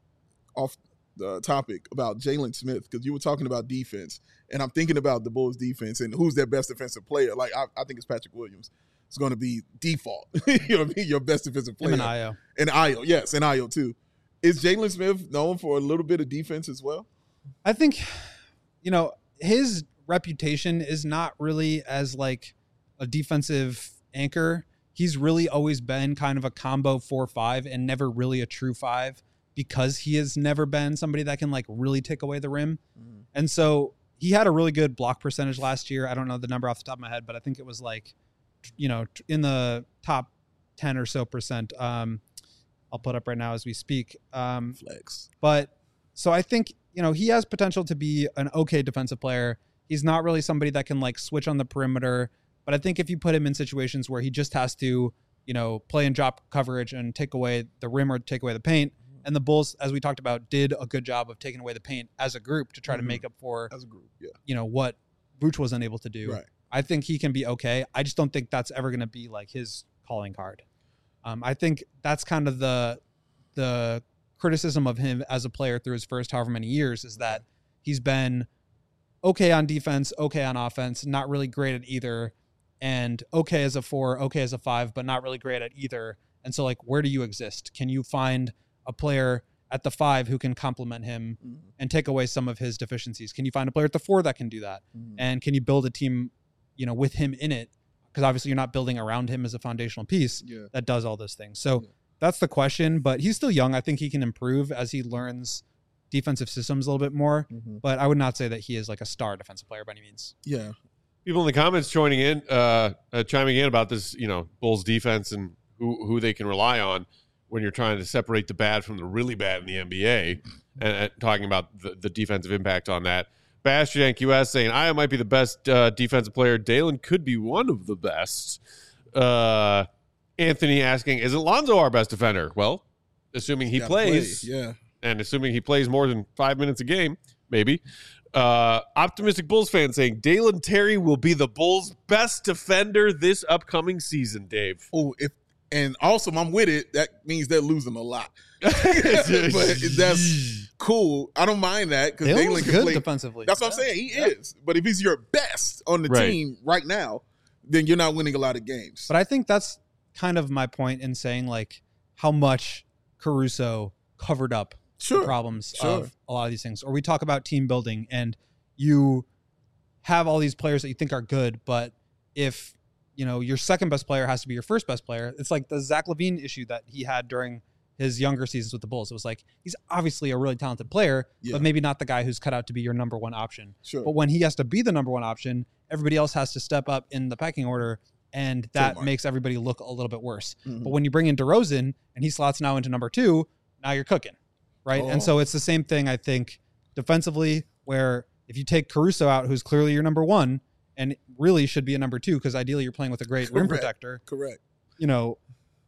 off the topic about Jalen Smith, because you were talking about defense, and I'm thinking about the Bulls defense and who's their best defensive player. Like I, I think it's Patrick Williams. It's going to be default. you know what I mean? Your best defensive player. Him and Io. And Io, yes, and Io too. Is Jalen Smith known for a little bit of defense as well? I think, you know, his reputation is not really as like a defensive anchor. He's really always been kind of a combo four five and never really a true five, because he has never been somebody that can like really take away the rim. Mm-hmm. And so he had a really good block percentage last year. I don't know the number off the top of my head, but I think it was like, you know, in the top ten or so percent. Um, I'll put up right now as we speak. Um, Flex. But so I think, you know, he has potential to be an okay defensive player. He's not really somebody that can like switch on the perimeter, but I think if you put him in situations where he just has to, you know, play and drop coverage and take away the rim or take away the paint, and the Bulls, as we talked about, did a good job of taking away the paint as a group to try mm-hmm. to make up for, as a group, yeah, you know, what Vooch was unable to do. Right. I think he can be okay. I just don't think that's ever going to be like his calling card. Um, I think that's kind of the the criticism of him as a player through his first however many years, is that he's been okay on defense, okay on offense, not really great at either, and okay as a four, okay as a five, but not really great at either. And so, like, where do you exist? Can you find a player at the five who can complement him mm-hmm. and take away some of his deficiencies? Can you find a player at the four that can do that? Mm-hmm. And can you build a team, you know, with him in it? Because obviously you're not building around him as a foundational piece yeah. that does all those things. So yeah. that's the question, but he's still young. I think he can improve as he learns defensive systems a little bit more, mm-hmm. but I would not say that he is like a star defensive player by any means. Yeah. People in the comments joining in, uh, uh, chiming in about this, you know, Bulls defense and who who they can rely on when you're trying to separate the bad from the really bad in the N B A, and, and talking about the, the defensive impact on that. Bastian Q S saying, Io might be the best uh, defensive player. Dalen could be one of the best. Uh, Anthony asking, is Alonzo our best defender? Well, assuming he plays, play. yeah, and assuming he plays more than five minutes a game, maybe. Uh, optimistic Bulls fan saying Dalen Terry will be the Bulls' best defender this upcoming season, Dave. Oh, if and also I'm with it. That means they're losing a lot. But that's cool. I don't mind that because Dalen's Dalen can good play defensively. That's what I'm saying. He yeah. is. But if he's your best on the right. team right now, then you're not winning a lot of games. But I think that's kind of my point in saying like how much Caruso covered up Sure. the problems Sure. of a lot of these things. Or we talk about team building and you have all these players that you think are good, but if, you know, your second best player has to be your first best player, it's like the Zach LaVine issue that he had during his younger seasons with the Bulls. It was like, he's obviously a really talented player, Yeah. but maybe not the guy who's cut out to be your number one option. Sure. But when he has to be the number one option, everybody else has to step up in the pecking order, and that Trademark. makes everybody look a little bit worse. Mhm. But when you bring in DeRozan and he slots now into number two, now you're cooking. Right. Oh. And so it's the same thing, I think, defensively, where if you take Caruso out, who's clearly your number one and really should be a number two, because ideally you're playing with a great rim Correct. protector, Correct. you know,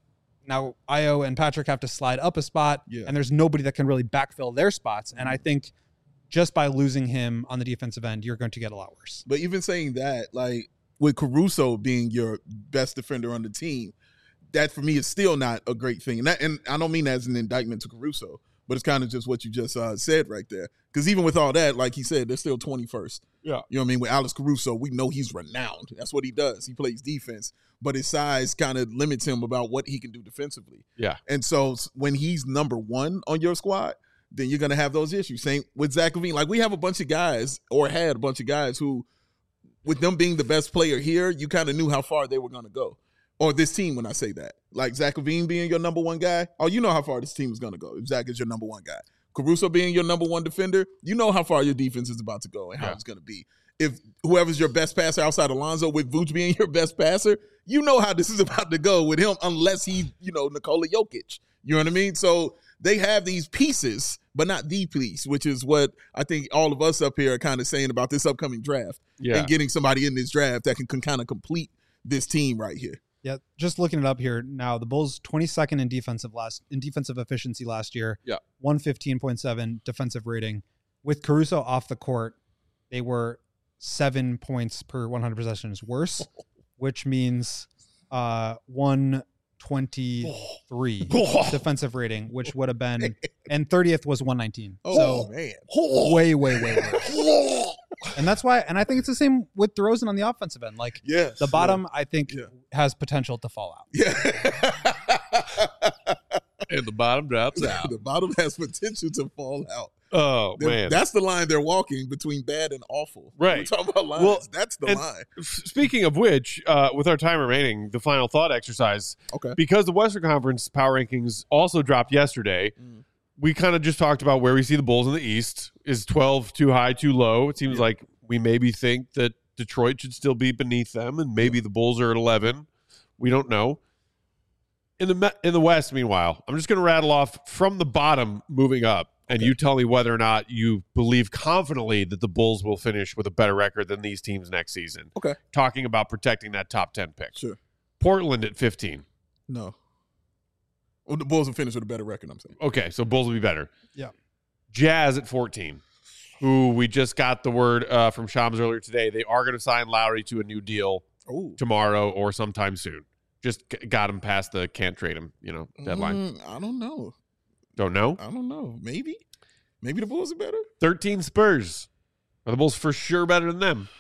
now Io and Patrick have to slide up a spot, Yeah. and there's nobody that can really backfill their spots. And I think just by losing him on the defensive end, you're going to get a lot worse. But even saying that, like with Caruso being your best defender on the team, that for me is still not a great thing. And, that, and I don't mean that as an indictment to Caruso, but it's kind of just what you just uh, said right there. Because even with all that, like he said, they're still twenty-first. Yeah. You know what I mean? With Alex Caruso, we know he's renowned. That's what he does. He plays defense. But his size kind of limits him about what he can do defensively. Yeah. And so when he's number one on your squad, then you're going to have those issues. Same with Zach LaVine. Like we have a bunch of guys or had a bunch of guys who, with them being the best player here, you kind of knew how far they were going to go. Or this team, when I say that. Like Zach LaVine being your number one guy, oh, you know how far this team is going to go if Zach is your number one guy. Caruso being your number one defender, you know how far your defense is about to go and how Yeah. it's going to be. If whoever's your best passer outside Alonzo, with Vooch being your best passer, you know how this is about to go with him unless he, you know, Nikola Jokic. You know what I mean? So they have these pieces, but not the piece, which is what I think all of us up here are kind of saying about this upcoming draft Yeah. and getting somebody in this draft that can, can kind of complete this team right here. Yeah, just looking it up here now, the Bulls twenty-second in defensive last in defensive efficiency last year. Yeah. one fifteen point seven defensive rating. With Caruso off the court, they were seven points per one hundred possessions worse, which means uh, one twenty-three defensive rating, which would have been, and thirtieth was one nineteen. Oh, So man. way, way, way worse. And that's why, and I think it's the same with DeRozan on the offensive end. Like Yeah. the bottom, I think, Yeah. has potential to fall out. Yeah. And the bottom drops out. The bottom has potential to fall out. Oh, They're- man. That's the line they're walking between bad and awful. Right. We're talking about lines. Well, that's the and- line. F- Speaking of which, uh, with our time remaining, the final thought exercise, Okay. because the Western Conference power rankings also dropped yesterday, Mm. we kind of just talked about where we see the Bulls in the East. Is twelve too high, too low? It seems Yeah. like we maybe think that Detroit should still be beneath them, and maybe the Bulls are at eleven. We don't know. In the Me- in the West, meanwhile, I'm just going to rattle off from the bottom moving up, and Okay. you tell me whether or not you believe confidently that the Bulls will finish with a better record than these teams next season. Okay. Talking about protecting that top ten pick. Sure. Portland at fifteen. No. Well, the Bulls will finish with a better record, I'm saying. Okay, so Bulls will be better. Yeah. Jazz at fourteen, who we just got the word uh, from Shams earlier today. They are going to sign Lowry to a new deal Oh. tomorrow or sometime soon. Just g- got him past the can't trade him, you know, deadline. Mm, I don't know. Don't know. I don't know. Maybe. Maybe the Bulls are better. thirteen Spurs. Are the Bulls for sure better than them?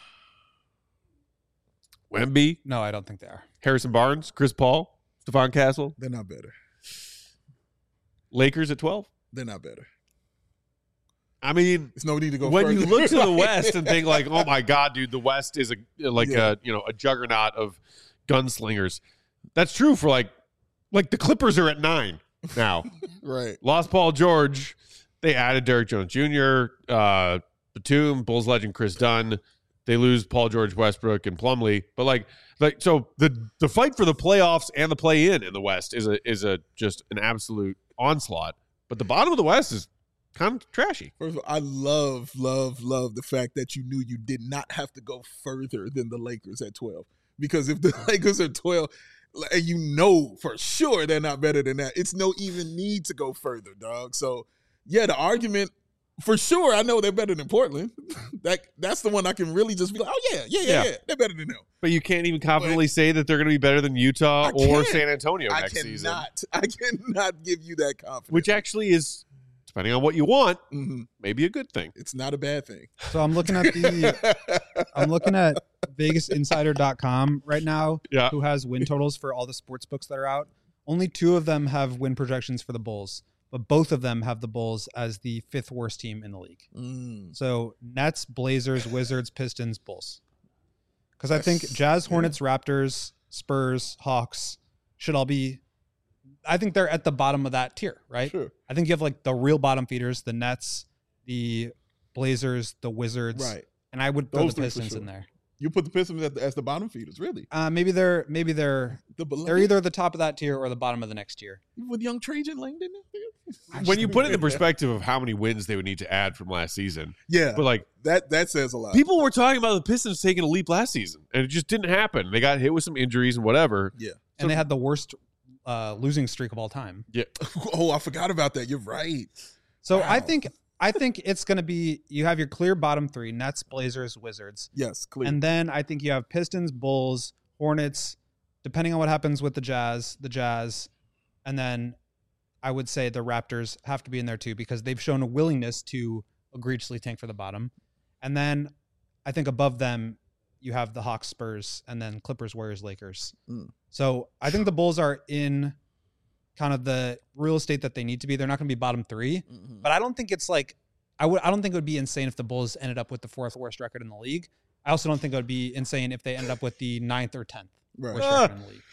Wemby, No, I don't think they are. Harrison Barnes, Chris Paul, Stephon Castle, They're not better. Lakers at twelve. They're not better. I mean, It's no need to go when further. you look to the West and think like, oh my God, dude, the West is a like Yeah. a you know a juggernaut of gunslingers. That's true for like like the Clippers are at nine now. Right. Lost Paul George. They added Derrick Jones Junior, uh, Batum, Bulls legend Chris Dunn. They lose Paul George, Westbrook, and Plumlee. But like, like so the the fight for the playoffs and the play in in the West is a is a just an absolute onslaught. But the bottom of the West is kind of trashy. First of all, I love, love, love the fact that you knew you did not have to go further than the Lakers at twelve. Because if the Lakers are twelve, and you know for sure they're not better than that, it's no even need to go further, dog. So, yeah, the argument, for sure, I know they're better than Portland. that That's the one I can really just be like, oh, yeah, yeah, yeah, Yeah. yeah, they're better than them. But you can't even confidently say that they're going to be better than Utah I or can't. San Antonio I next cannot, season. I cannot give you that confidence. Which actually is, depending on what you want, Mhm. maybe a good thing. It's not a bad thing. So I'm looking at the I'm looking at Vegas Insider dot com right now, Yeah. who has win totals for all the sports books that are out. Only two of them have win projections for the Bulls, but both of them have the Bulls as the fifth worst team in the league. Mm. So Nets, Blazers, Wizards, Pistons, Bulls. Because I think Jazz, Hornets, Raptors, Spurs, Hawks should all be, I think they're at the bottom of that tier, right? Sure. I think you have like the real bottom feeders, the Nets, the Blazers, the Wizards. Right. And I would throw Those the three for Pistons sure. in there. You put the Pistons at the, as the bottom feeders, really. Uh, maybe they're maybe they're The they're either the top of that tier or the bottom of the next tier. with young Trajan Langdon. When you put it in the perspective of how many wins they would need to add from last season, Yeah, but like that that says a lot. people were talking about the Pistons taking a leap last season, and it just didn't happen. They got hit with some injuries and whatever. Yeah. And they had the worst uh, losing streak of all time. Yeah, Oh, I forgot about that. You're right. So I Wow. think I think it's going to be you have your clear bottom three: Nets, Blazers, Wizards, Yes, clear. and then I think you have Pistons, Bulls, Hornets. Depending on what happens with the Jazz, the Jazz, and then I would say the Raptors have to be in there too because they've shown a willingness to egregiously tank for the bottom. And then I think above them you have the Hawks, Spurs, and then Clippers, Warriors, Lakers. Mm. So I think the Bulls are in kind of the real estate that they need to be. They're not going to be bottom three, Mhm. but I don't think it's like I would. I don't think it would be insane if the Bulls ended up with the fourth worst record in the league. I also don't think it would be insane if they ended up with the ninth or tenth Right. worst Ah. record in the league.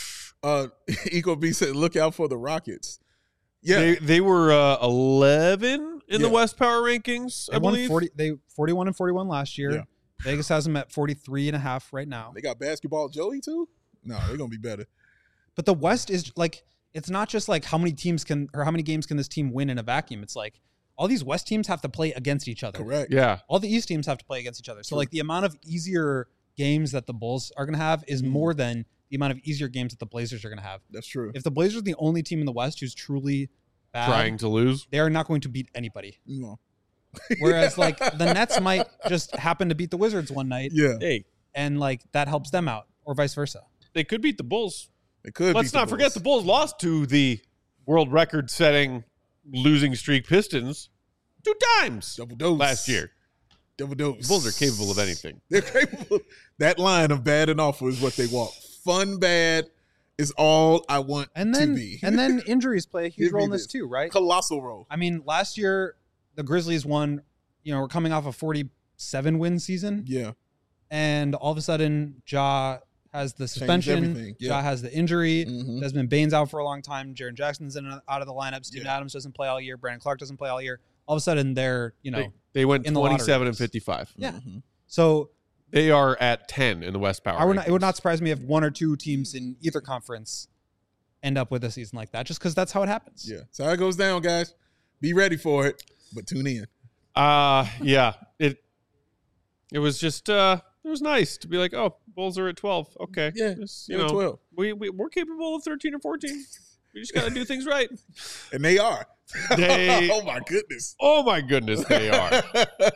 Uh, Eco B said, "Look out for the Rockets." Yeah, they they were uh, eleven in the Yeah. West Power rankings. They I won believe. forty. They forty-one and forty-one last year. Yeah. Vegas has them at forty-three and a half right now. they got basketball Joey too. No, they're gonna be better. But the West is like it's not just like how many teams can or how many games can this team win in a vacuum. It's like all these West teams have to play against each other. Correct. Yeah, All the East teams have to play against each other. So True. like the amount of easier games that the Bulls are going to have is Mhm. more than the amount of easier games that the Blazers are going to have. That's true. If the Blazers are the only team in the West who's truly bad, trying to lose. they are not going to beat anybody. You know. Whereas like the Nets might just happen to beat the Wizards one night Yeah, Hey, and like that helps them out or vice versa. they could beat the Bulls. they could. Let's beat not forget the Bulls lost to the world record-setting losing streak Pistons two times double dose last year. Double dose. The Bulls are capable of anything. They're capable. That line of bad and awful is what they walk. Fun bad is all I want And to then be. and then injuries play a huge Give me role in this this. too, right? Colossal role. I mean, last year the Grizzlies won, you know, we're coming off a forty-seven win season, Yeah. and all of a sudden Ja has the suspension, everything, yeah. Ja has the injury, Mhm. Desmond Bane's out for a long time, Jaren Jackson's in and out of the lineup, Steven Yeah. Adams doesn't play all year, Brandon Clark doesn't play all year. All of a sudden they're, you know, They, they went in the lottery twenty-seven and race. fifty-five. Yeah. Mhm. so They are at ten in the West Power. I would not, it would rankings. not surprise me if one or two teams in either conference end up with a season like that, just because that's how it happens. Yeah. So how it goes down, guys. Be ready for it, but tune in. Uh yeah. It it was just uh it was nice to be like, oh, Bulls are at twelve. Okay. Yeah, Just, you they're know, at twelve. we, we we're capable of thirteen or fourteen. We just gotta do things right. And they are. They- oh my goodness. Oh my goodness, they are.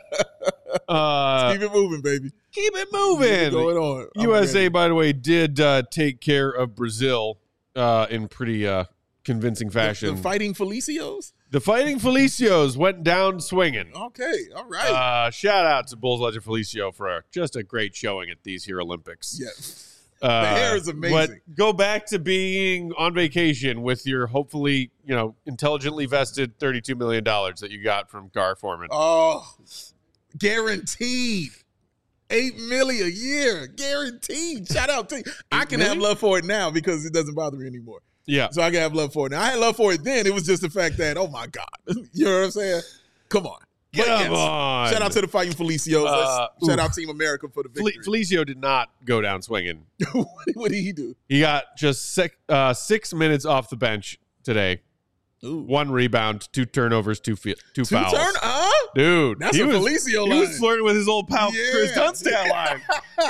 Uh Keep it moving, baby. keep it Keep it moving. going on. I'm U S A, ready. by the way, did uh, take care of Brazil uh, in pretty uh, convincing The, fashion. the fighting Felicios. The Fighting Felicios went down swinging. Okay. All right. Uh, shout out to Bulls legend Felicio for a, just a great showing at these here Olympics. yeah. Uh, The hair is amazing. But go back to being on vacation with your hopefully, you know, intelligently vested thirty-two million dollars that you got from Gar Foreman. Oh, guaranteed. Eight million a year. Guaranteed. Shout out to you. I can have million? love for it now because it doesn't bother me anymore. Yeah. So I can have love for it now. I had love for it then. It was just the fact that, oh my God. You know what I'm saying? Come on. But Come yes, on. shout out to the Fighting Felicios. Uh, shout oof. out Team America for the Fel- victory. Felicio did not go down swinging. What did he do? He got just six, uh, six minutes off the bench today. Ooh. One rebound, two turnovers, two fe- two, Two fouls. turn, uh? Dude, That's he a was, Felicio he line. was flirting with his old pal Yeah. Chris Dunstad line.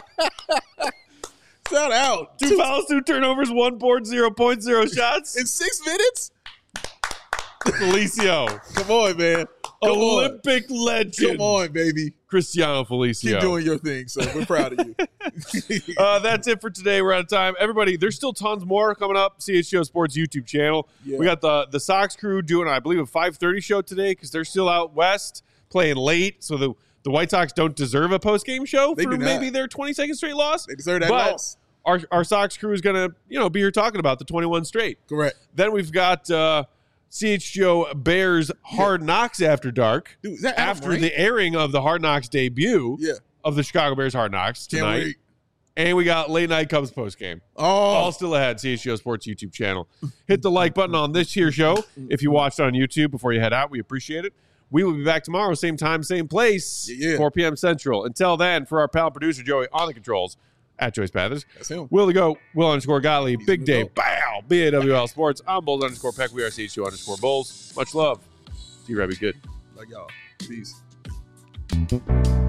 Shout out. Two fouls, two turnovers, one board, zero point zero shots. In six minutes? Felicio, Come on, man. Come on. Olympic legend. Come on, baby. Cristiano Felicio. Keep doing your thing, so we're proud of you. uh, that's it for today. We're out of time. Everybody, there's still tons more coming up. C H G O Sports YouTube channel. Yeah. We got the the Sox crew doing, I believe, a five thirty show today because they're still out west playing late. So the, the White Sox don't deserve a post game show They for do not. maybe their twenty-second straight loss. They deserve that But loss. Our our Sox crew is gonna you know be here talking about the twenty-one straight. Correct. Then we've got uh, C H G O Bears Hard Knocks After Dark. Dude, is that Adam After Ray? the airing of the Hard Knocks debut Yeah. of the Chicago Bears Hard Knocks Can't tonight. wait. And we got late night Cubs post game. Oh. All still ahead. C H G O Sports YouTube channel. Hit the like button on this here show if you watched on YouTube before you head out. We appreciate it. We will be back tomorrow, same time, same place, Yeah, yeah. four p.m. Central. Until then, for our pal producer Joey on the controls at Joyce Pathers, That's him. Will to go, Will underscore Gottlieb, He's Big the Dave, goat. bow, B A W L Sports. I'm Bulls underscore Peck. We are C H G O underscore Bulls. Much love. See you, Rebby. Good. Like y'all. Peace.